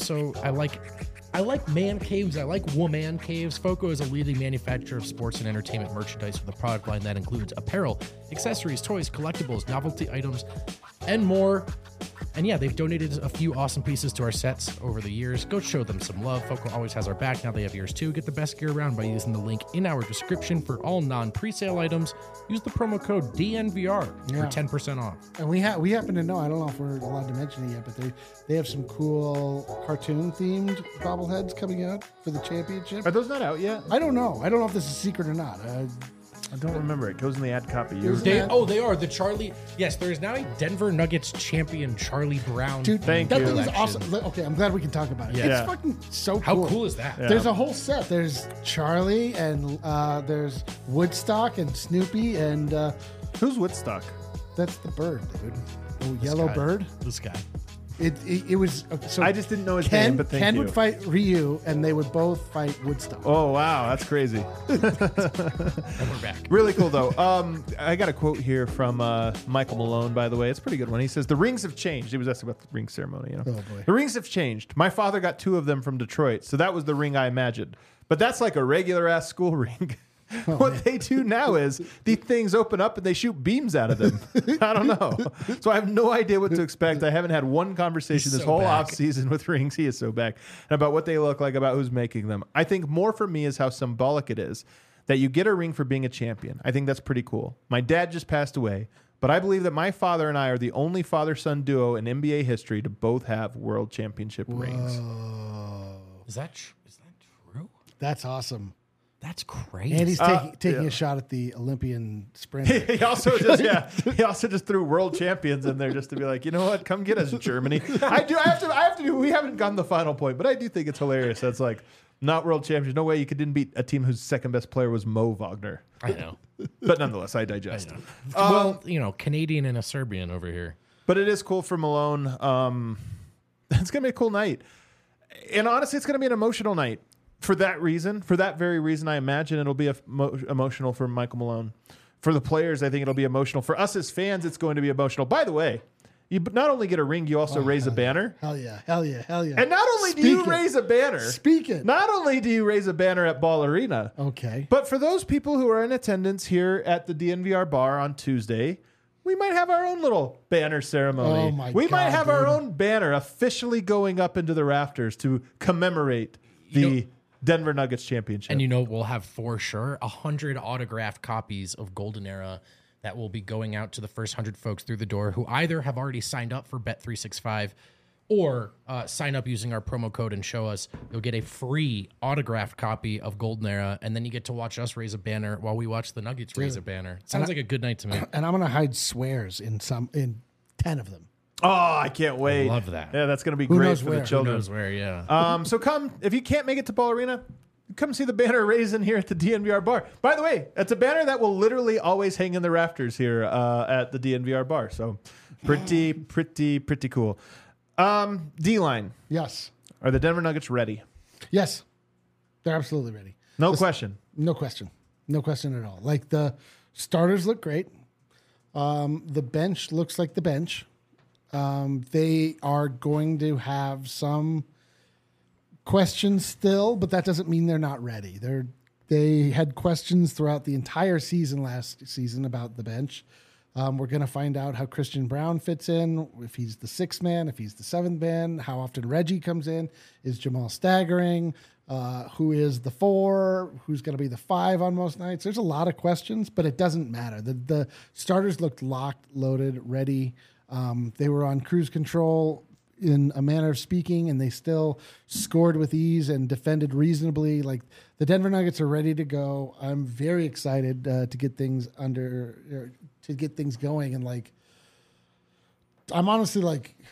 like man caves. I like woman caves. FOCO is a leading manufacturer of sports and entertainment merchandise with a product line that includes apparel, accessories, toys, collectibles, novelty items, and more. And yeah, they've donated a few awesome pieces to our sets over the years. Go show them some love. FOCO always has our back. Now they have yours too. Get the best gear around by using the link in our description for all non-presale items. Use the promo code DNVR for 10% off. And we happen to know, I don't know if we're allowed to mention it yet, but they have some cool cartoon-themed bobbleheads coming out for the championship. Are those not out yet? I don't know. I don't know if this is secret or not. I don't remember. It goes in the ad copy. They are the Charlie. Yes, there is now a Denver Nuggets champion, Charlie Brown. Dude, thank that you. thing is awesome. Okay, I'm glad we can talk about it. Yeah. It's fucking so cool. How cool is that? Yeah. There's a whole set. There's Charlie and there's Woodstock and Snoopy and who's Woodstock? That's the bird, dude. Oh, yellow guy. bird. This guy. It was so. I just didn't know his name, but thank Ken you. would fight Ryu, and they would both fight Woodstock. Oh wow, that's crazy. And we're back. Really cool though. I got a quote here from Michael Malone, by the way. It's a pretty good one. He says, "The rings have changed." He was asking about the ring ceremony. You know? Oh, boy. The rings have changed. My father got 2 of them from Detroit, so that was the ring I imagined. But that's like a regular ass school ring. What they do now is these things open up and they shoot beams out of them. I don't know. So I have no idea what to expect. I haven't had one conversation He's this so whole back. off season with rings. He is so back. And about what they look like, about who's making them. I think more for me is how symbolic it is that you get a ring for being a champion. I think that's pretty cool. My dad just passed away, but I believe that my father and I are the only father-son duo in NBA history to both have world championship rings. Is that true? That's awesome. That's crazy. And he's taking yeah. a shot at the Olympian sprint. He also just threw world champions in there just to be like, you know what, come get us, Germany. I have to do. We haven't gotten the final point, but I do think it's hilarious. That's like not world champions. No way you didn't beat a team whose second best player was Mo Wagner. I know. But nonetheless, I digest. Well, Canadian and a Serbian over here. But it is cool for Malone. It's gonna be a cool night, and honestly, it's gonna be an emotional night. For that reason, for that very reason, I imagine it'll be emotional for Michael Malone. For the players, I think it'll be emotional. For us as fans, it's going to be emotional. By the way, you not only get a ring, you also raise a banner. Hell yeah. Hell yeah. Hell yeah. And not only do you raise a banner, not only do you raise a banner at Ball Arena, Okay. but for those people who are in attendance here at the DNVR bar on Tuesday, we might have our own little banner ceremony. Oh my we might God, have our dude. own banner officially going up into the rafters to commemorate the Denver Nuggets championship. And we'll have for sure 100 autographed copies of Golden Era that will be going out to the first 100 folks through the door who either have already signed up for Bet365 or sign up using our promo code and show us. You'll get a free autographed copy of Golden Era, and then you get to watch us raise a banner while we watch the Nuggets raise a banner. Sounds like a good night to me. And I'm gonna hide swears in 10 of them. Oh, I can't wait. Love that. Yeah, that's going to be Who great knows for where? the Who children. Who knows where, yeah. So come, if you can't make it to Ball Arena, come see the banner raising here at the DNVR bar. By the way, it's a banner that will literally always hang in the rafters here at the DNVR bar. So pretty cool. D-line. Yes. Are the Denver Nuggets ready? Yes. They're absolutely ready. No question. No question. No question at all. Like the starters look great. The bench looks like the bench. They are going to have some questions still, but that doesn't mean they're not ready. They had questions throughout the entire season last season about the bench. We're going to find out how Christian Brown fits in, if he's the 6th man, if he's the 7th man, how often Reggie comes in, is Jamal staggering, who is the 4, who's going to be the 5 on most nights. There's a lot of questions, but it doesn't matter. The starters looked locked, loaded, ready. They were on cruise control in a manner of speaking, and they still scored with ease and defended reasonably. Like the Denver Nuggets are ready to go. I'm very excited to get things going, and I'm honestly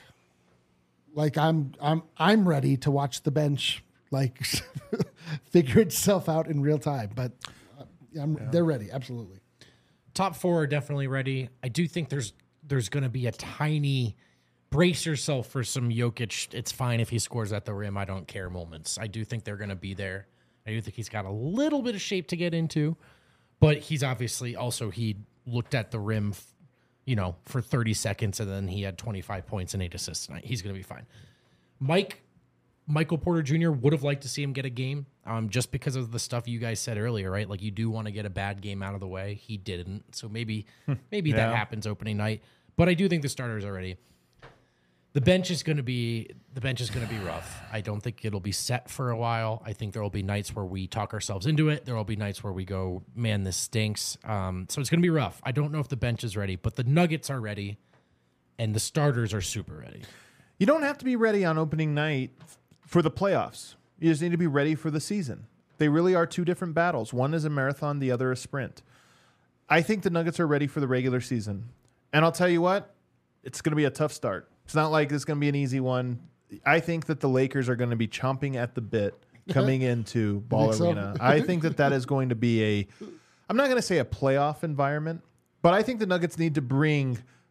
I'm ready to watch the bench figure itself out in real time. But they're ready, absolutely. Top 4 are definitely ready. I do think there's going to be a tiny brace yourself for some Jokic. It's fine if he scores at the rim. I don't care moments. I do think they're going to be there. I do think he's got a little bit of shape to get into, but he's obviously also, he looked at the rim, for 30 seconds, and then he had 25 points and 8 assists tonight. He's going to be fine. Michael Porter Jr. would have liked to see him get a game, just because of the stuff you guys said earlier, right? Like you do want to get a bad game out of the way. He didn't, so maybe that happens opening night. But I do think the starters are ready. The bench is going to be rough. I don't think it'll be set for a while. I think there will be nights where we talk ourselves into it. There will be nights where we go, man, this stinks. So it's going to be rough. I don't know if the bench is ready, but the Nuggets are ready, and the starters are super ready. You don't have to be ready on opening night for the playoffs. You just need to be ready for the season. They really are 2 different battles. One is a marathon, the other a sprint. I think the Nuggets are ready for the regular season. And I'll tell you what, it's going to be a tough start. It's not like this is going to be an easy one. I think that the Lakers are going to be chomping at the bit coming into Ball Arena. I think that is going to be I'm not going to say a playoff environment, but I think the Nuggets need to bring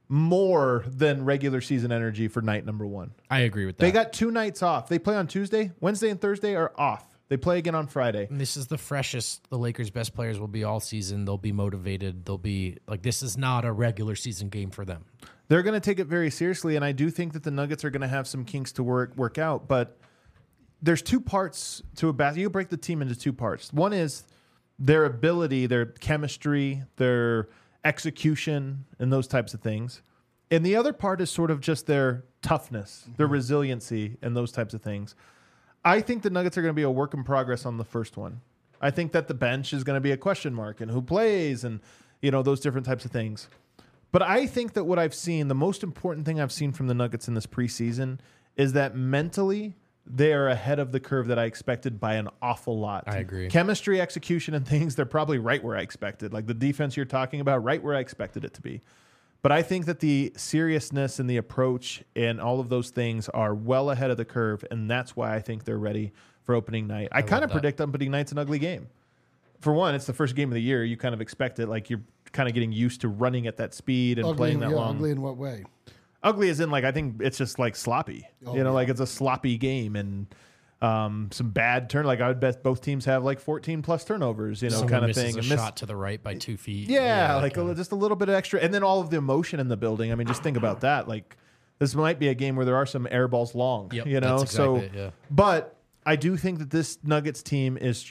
more than regular season energy for night number 1. I agree with that. They got 2 nights off. They play on Tuesday. Wednesday and Thursday are off. They play again on Friday. And this is the freshest the Lakers' best players will be all season. They'll be motivated. They'll be like, this is not a regular season game for them. They're going to take it very seriously, and I do think that the Nuggets are going to have some kinks to work out. But there's 2 parts to a basketball. You break the team into 2 parts. One is their ability, their chemistry, their execution, and those types of things. And the other part is sort of just their toughness, their resiliency, and those types of things. I think the Nuggets are going to be a work in progress on the first one. I think that the bench is going to be a question mark and who plays and, those different types of things. But I think that what I've seen, the most important thing I've seen from the Nuggets in this preseason is that mentally they are ahead of the curve that I expected by an awful lot. I agree. Chemistry, execution, and things, they're probably right where I expected. Like the defense you're talking about, right where I expected it to be. But I think that the seriousness and the approach and all of those things are well ahead of the curve, and that's why I think they're ready for opening night. I kind of predict opening night's an ugly game. For one, it's the first game of the year. You kind of expect it. Like you're kind of getting used to running at that speed and playing that long. Ugly in what way? Ugly as in, I think it's just sloppy. It's a sloppy game and some bad turn. I would bet both teams have 14 plus turnovers, Someone kind of misses thing. A shot to the right by 2 feet. Yeah, just a little bit of extra. And then all of the emotion in the building. I mean, just think about that. This might be a game where there are some air balls long, That's exactly it, yeah. But I do think that this Nuggets team is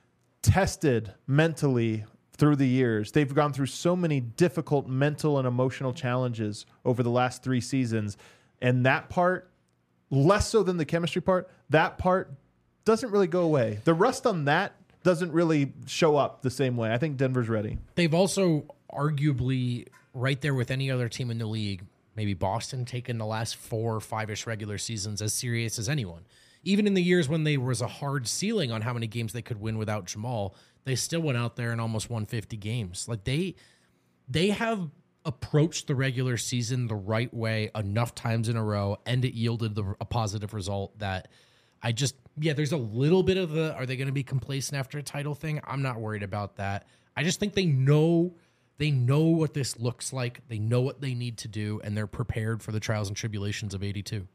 tested mentally through the years. They've gone through so many difficult mental and emotional challenges over the last 3 seasons. And that part, less so than the chemistry part, that part doesn't really go away. The rust on that doesn't really show up the same way. I think Denver's ready. They've also arguably right there with any other team in the league, maybe Boston, taken the last 4 or 5-ish regular seasons as serious as anyone. Even in the years when there was a hard ceiling on how many games they could win without Jamal, they still went out there and almost won 50 games. They have approached the regular season the right way enough times in a row, and it yielded a positive result that there's a little bit of are they going to be complacent after a title thing? I'm not worried about that. I just think they know what this looks like. They know what they need to do, and they're prepared for the trials and tribulations of 82.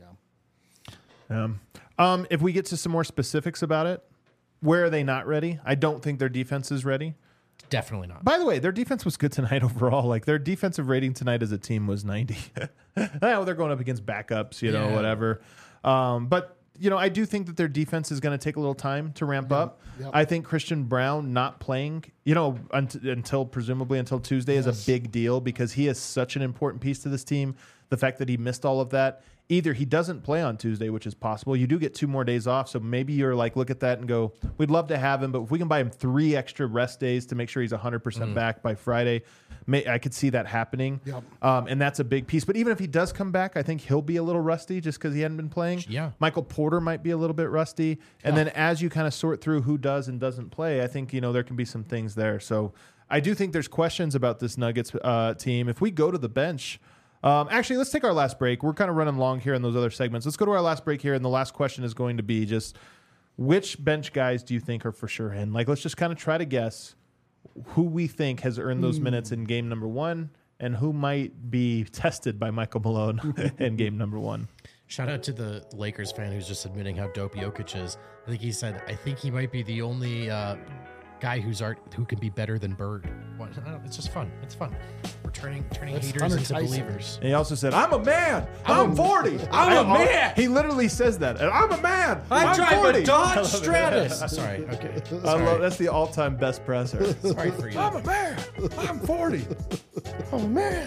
If we get to some more specifics about it, where are they not ready? I don't think their defense is ready. Definitely not. By the way, their defense was good tonight overall. Their defensive rating tonight as a team was 90. They're going up against backups, whatever. But I do think that their defense is going to take a little time to ramp up. Yep. I think Christian Brown not playing, until Tuesday is a big deal because he is such an important piece to this team. The fact that he missed all of that. Either he doesn't play on Tuesday, which is possible. You do get 2 more days off, so maybe you're look at that and go, we'd love to have him, but if we can buy him 3 extra rest days to make sure he's 100% back by Friday, I could see that happening. Yep. And that's a big piece. But even if he does come back, I think he'll be a little rusty just because he hadn't been playing. Yeah. Michael Porter might be a little bit rusty. And then as you kind of sort through who does and doesn't play, I think, there can be some things there. So I do think there's questions about this Nuggets team. If we go to the bench, actually, let's take our last break. We're kind of running long here in those other segments. Let's go to our last break here, and the last question is going to be just which bench guys do you think are for sure in? Let's just kind of try to guess who we think has earned those minutes in game number 1 and who might be tested by Michael Malone in game number 1. Shout out to the Lakers fan who's just admitting how dope Jokic is. I think he said, I think he might be the only guy who can be better than Bird. It's just fun. It's fun. We're turning haters into believers. And he also said, I'm a man. I'm 40. I'm a man. He literally says that. And I'm a man. I drive 40. a Dodge Stratus. Sorry. Okay. That's the all-time best presser. Sorry for you. I'm a man. I'm 40. I'm a man.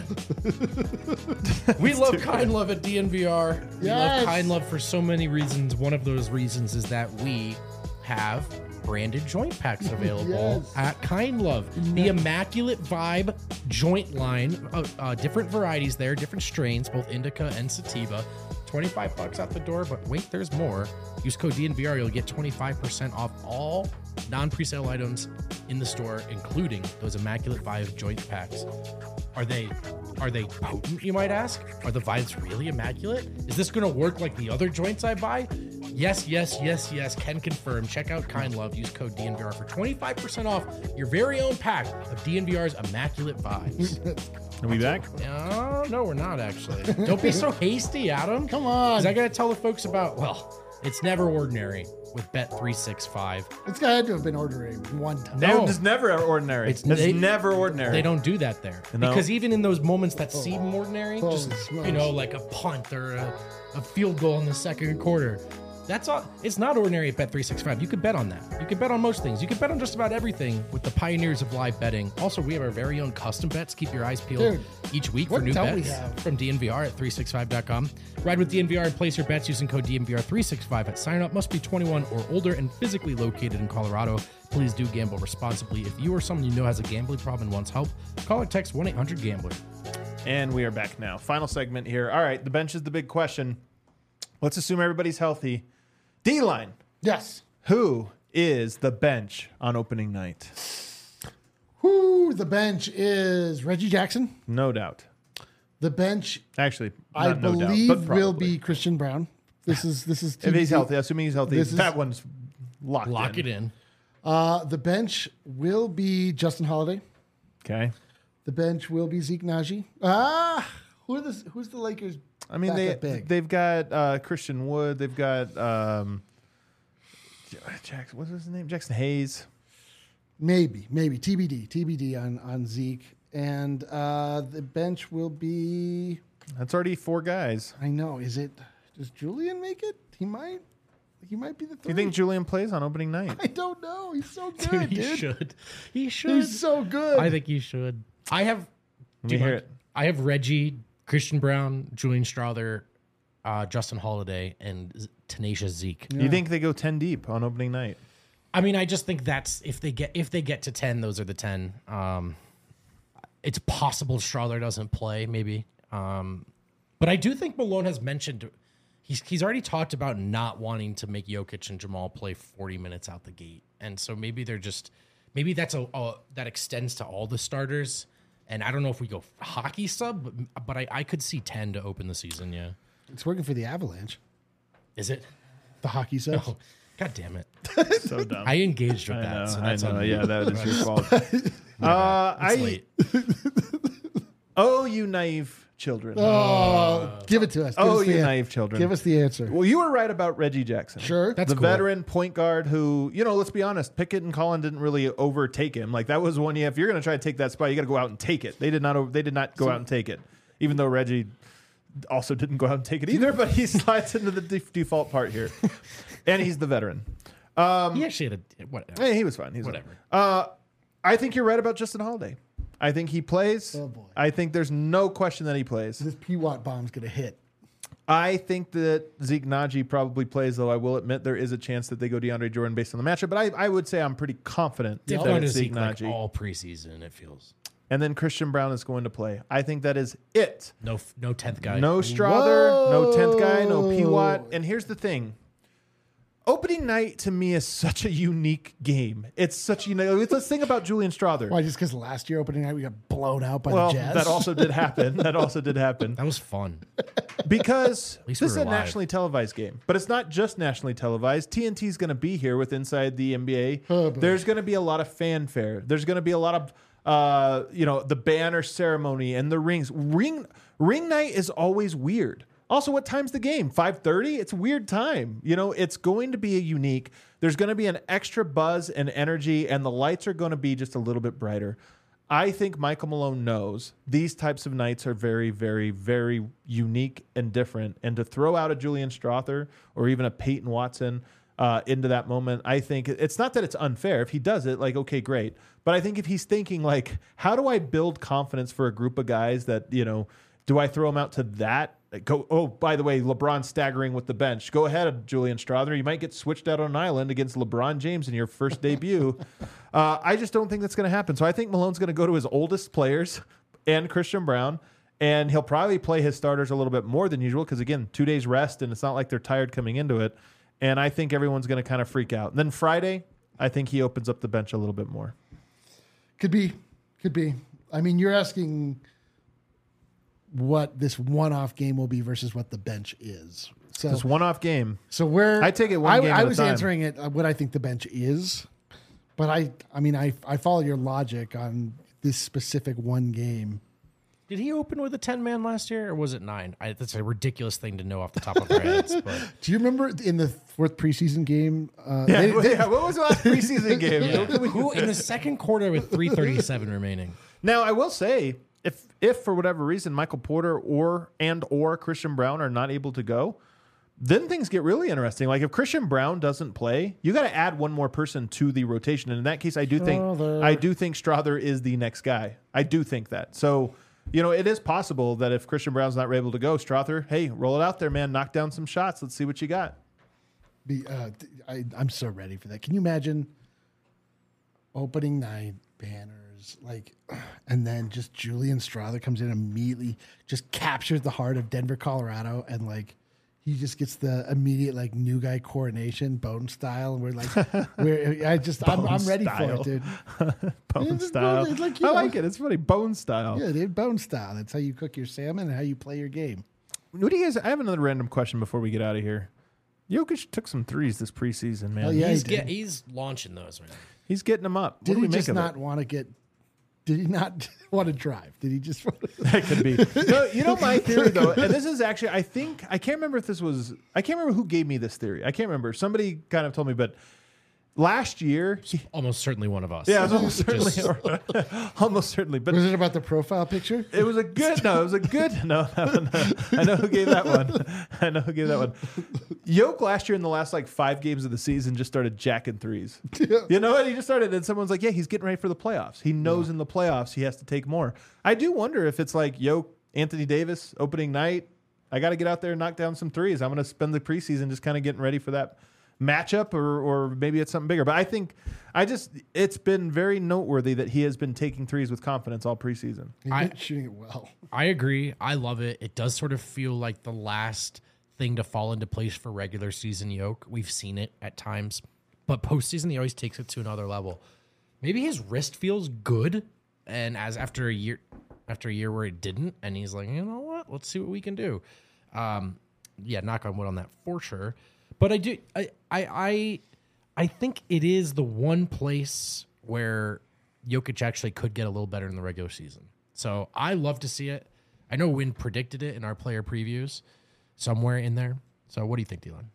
We love Kind Love at DNVR. We Yes. love Kind Love for so many reasons. One of those reasons is that we have branded joint packs available at Kind Love. The Immaculate Vibe joint line, different varieties there, different strains, both indica and sativa. $25 out the door, but wait, there's more. Use code DNVR, you'll get 25% off all non-presale items in the store, including those Immaculate Vibe joint packs. Are they potent, you might ask? Are the vibes really immaculate? Is this going to work like the other joints I buy? Yes, yes, yes, yes. Can confirm. Check out Kind Love. Use code DNVR for 25% off your very own pack of DNVR's Immaculate Vibes. Are we back? No, we're not actually. Don't be so hasty, Adam. Come on. Because I got to tell the folks about, well, it's never ordinary with Bet365. This guy had to have been ordering one time. No. It's never ordinary. It's they- never ordinary. They don't do that there. No. Because even in those moments that seem ordinary, Holy just, smokes. you know, like a punt or a field goal in the second quarter, that's all. It's not ordinary at Bet365. You could bet on that. You could bet on most things. You could bet on just about everything with the pioneers of live betting. Also, we have our very own custom bets. Keep your eyes peeled Dude, each week for what new don't we bets have? from DNVR at 365.com. Ride with DNVR and place your bets using code DNVR365 at sign up. Must be 21 or older and physically located in Colorado. Please do gamble responsibly. If you or someone you know has a gambling problem and wants help, call or text 1-800-GAMBLER. And we are back now. Final segment here. All right, the bench is the big question. Let's assume everybody's healthy. D-line. Yes. Who is the bench on opening night? Who the bench is Reggie Jackson. No doubt. The bench, Actually, I not no doubt, believe, but will probably. be Christian Brown. This is If he's TBD. healthy, assuming he's healthy, This is- that one's locked Lock in. it in. The bench will be Justin Holiday. Okay. The bench will be Zeke Najee. Who's the Lakers? I mean, backup big? they've got Christian Wood. They've got Jackson. What's his name? Jackson Hayes. Maybe TBD on Zeke, and the bench will be. That's already 4 guys. I know. Does Julian make it? He might be the Do three. you think Julian plays on opening night? I don't know. He's so Dude, good, he dude. should. He should. He's so good. I think you should. I have. Let do me you hear mind? it. I have Reggie, Christian Brown, Julian Strother, Justin Holiday, and Tenacious Zeke. You think they go 10 deep on opening night? I mean, I just think that's if they get to 10, those are the 10. It's possible Strother doesn't play, maybe. But I do think Malone has mentioned he's already talked about not wanting to make Jokic and Jamal play 40 minutes out the gate, and so maybe that's that extends to all the starters. And I don't know if we go hockey sub, but I could see 10 to open the season. Yeah, It's working for the Avalanche. Is it? The hockey subs. Oh, God damn it! So dumb. I engaged with I that. know. So that's on me. Yeah, that is your fault. It's late. Oh, you naive children. Give it to us. Give Oh, us the you an- naive children. Give us the answer. Well, you were right about Reggie Jackson. Sure. That's the cool. veteran point guard who, let's be honest, Pickett and Collin didn't really overtake him. Like that was one. If you're going to try to take that spot, you got to go out and take it. They did not. They did not go out and take it. Even though Reggie also didn't go out and take it either, but he slides into the default part here, and he's the veteran. He actually had a whatever. Hey, he was fine. He's Whatever. Fine. I think you're right about Justin Holiday. I think he plays. Oh, boy. I think there's no question that he plays. This P-Watt bomb's going to hit. I think that Zeke Najee probably plays, though I will admit there is a chance that they go DeAndre Jordan based on the matchup. But I would say I'm pretty confident They've that gone to it's Zeke Zeke like Najee. all preseason. It feels And then Christian Brown is going to play. I think that is it. no 10th guy. No Strother, no 10th guy, no Whoa. P-Watt. And here's the thing. Opening night to me is such a unique game. It's such it's a thing about Julian Strother. Why? Just because last year opening night we got blown out by Well, the Jazz? that also did happen. That was fun. Because least this is we a were live. nationally televised game, but it's not just nationally televised. TNT is going to be here with Inside the NBA. Oh, boy. There's going to be a lot of fanfare. There's going to be a lot of, the banner ceremony and the rings. Ring night is always weird. Also, what time's the game? 5:30? It's a weird time. It's going to be a unique. There's going to be an extra buzz and energy, and the lights are going to be just a little bit brighter. I think Michael Malone knows these types of nights are very, very, very unique and different. And to throw out a Julian Strother or even a Peyton Watson into that moment, I think it's not that it's unfair. If he does it, okay, great. But I think if he's thinking, how do I build confidence for a group of guys that, do I throw them out to that? Oh, by the way, LeBron staggering with the bench. Go ahead, Julian Strother. You might get switched out on an island against LeBron James in your first debut. I just don't think that's going to happen. So I think Malone's going to go to his oldest players and Christian Brown, and he'll probably play his starters a little bit more than usual because, again, 2 days rest, and it's not like they're tired coming into it. And I think everyone's going to kind of freak out. And then Friday, I think he opens up the bench a little bit more. Could be. I mean, you're asking what this one-off game will be versus what the bench is. So This one-off game. So where I take it one game at I a was time. answering it what I think the bench is, but I mean I follow your logic on this specific one game. Did he open with a 10-man last year, or was it 9? That's a ridiculous thing to know off the top of our heads. But Do you remember in the fourth preseason game? What was the last preseason game? who in the second quarter with 3:37 remaining? Now, I will say, if for whatever reason Michael Porter or Christian Brown are not able to go, then things get really interesting. Like if Christian Brown doesn't play, you got to add one more person to the rotation. And in that case, I do think Strother is the next guy. I do think that. So, it is possible that if Christian Brown's not able to go, Strother, hey, roll it out there, man. Knock down some shots. Let's see what you got. I'm so ready for that. Can you imagine opening night banners, and then just Julian Strother comes in immediately, just captures the heart of Denver, Colorado, and he just gets the immediate new guy coronation, Bone style, and I'm ready for it, dude. Bone style. I like it. It's funny. Bone style. Yeah, dude, Bone style. That's how you cook your salmon and how you play your game. What do you guys? I have another random question before we get out of here. Jokic took some threes this preseason, man. Oh, yeah, he's launching those, man. He's getting them up. Did what do he we just make of not it? want to get? Did he not want to drive? Did he just want to? That could be. No, my theory though, and this is actually, I can't remember who gave me this theory. I can't remember. Somebody kind of told me, but last year, Almost certainly one of us. yeah, it was almost certainly, but Was it about the profile picture? it was a good. No. I know who gave that one. Yoke last year in the last 5 games of the season just started jacking threes. Yeah. You know what? He just started, and someone's like, yeah, he's getting ready for the playoffs. He knows in the playoffs he has to take more. I do wonder if it's like Yoke, Anthony Davis, opening night. I got to get out there and knock down some threes. I'm going to spend the preseason just kind of getting ready for that matchup, or maybe it's something bigger. But I think it's been very noteworthy that he has been taking threes with confidence all preseason. He's been shooting it well. I agree. I love it. It does sort of feel like the last thing to fall into place for regular season Yoke. We've seen it at times, but postseason he always takes it to another level. Maybe his wrist feels good, and after a year where it didn't, and he's like, you know what? Let's see what we can do. Knock on wood on that for sure. But I think it is the one place where Jokic actually could get a little better in the regular season. So I love to see it. I know Wynn predicted it in our player previews somewhere in there. So what do you think, Dylan?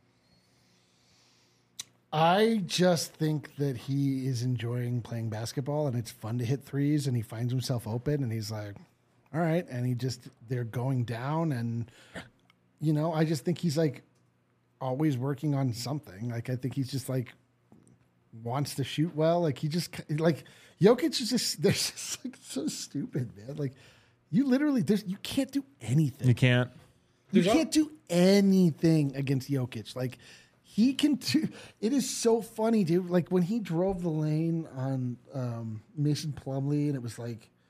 I just think that he is enjoying playing basketball, and it's fun to hit threes, and he finds himself open, and he's like, all right. And they're going down, and, I just think he's always working on something. I think he's just wants to shoot well. Jokic is just, they're just so stupid, man. You literally, you can't do anything. You can't. You can't do anything against Jokic. He can do. It is so funny, dude. When he drove the lane on Mason Plumlee, and it was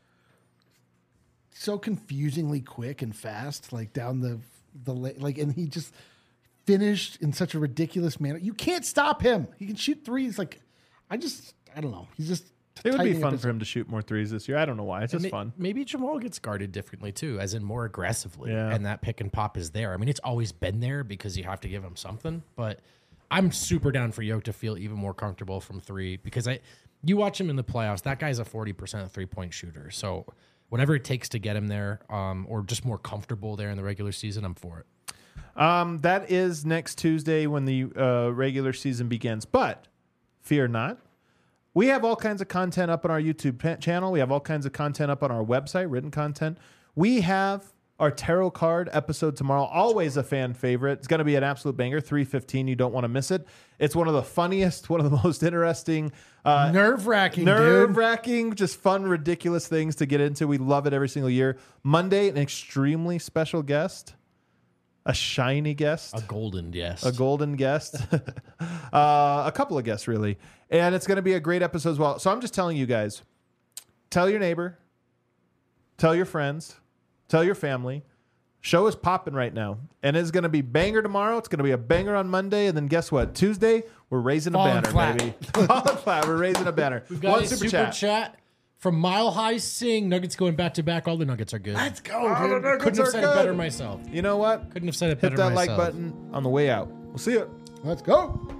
so confusingly quick and fast, down the lane, and he just finished in such a ridiculous manner. You can't stop him. He can shoot threes. I don't know. He's just. It would be fun for him to shoot more threes this year. I don't know why. It's just fun. Maybe Jamal gets guarded differently too, as in more aggressively. Yeah. And that pick and pop is there. I mean, it's always been there because you have to give him something. But I'm super down for Yoke to feel even more comfortable from three, because you watch him in the playoffs. That guy's a 40% 3-point shooter. So whatever it takes to get him there, or just more comfortable there in the regular season, I'm for it. That is next Tuesday when the regular season begins. But fear not. We have all kinds of content up on our YouTube channel. We have all kinds of content up on our website, written content. We have our tarot card episode tomorrow. Always a fan favorite. It's going to be an absolute banger. 3:15. You don't want to miss it. It's one of the funniest, one of the most interesting, nerve-wracking, just fun, ridiculous things to get into. We love it every single year. Monday, an extremely special guest. A shiny guest. A golden guest. A golden guest. A couple of guests, really. And it's going to be a great episode as well. So I'm just telling you guys, tell your neighbor, tell your friends, tell your family. Show is popping right now. And it's going to be banger tomorrow. It's going to be a banger on Monday. And then guess what? Tuesday, we're raising a banner, baby. Falling flat. We're raising a banner. We've got a super chat From Mile High Sing, Nuggets going back to back. All the Nuggets are good. Let's go, dude. Couldn't have said it better myself. You know what? Couldn't have said it Hit better that myself. like button on the way out. We'll see you. Let's go.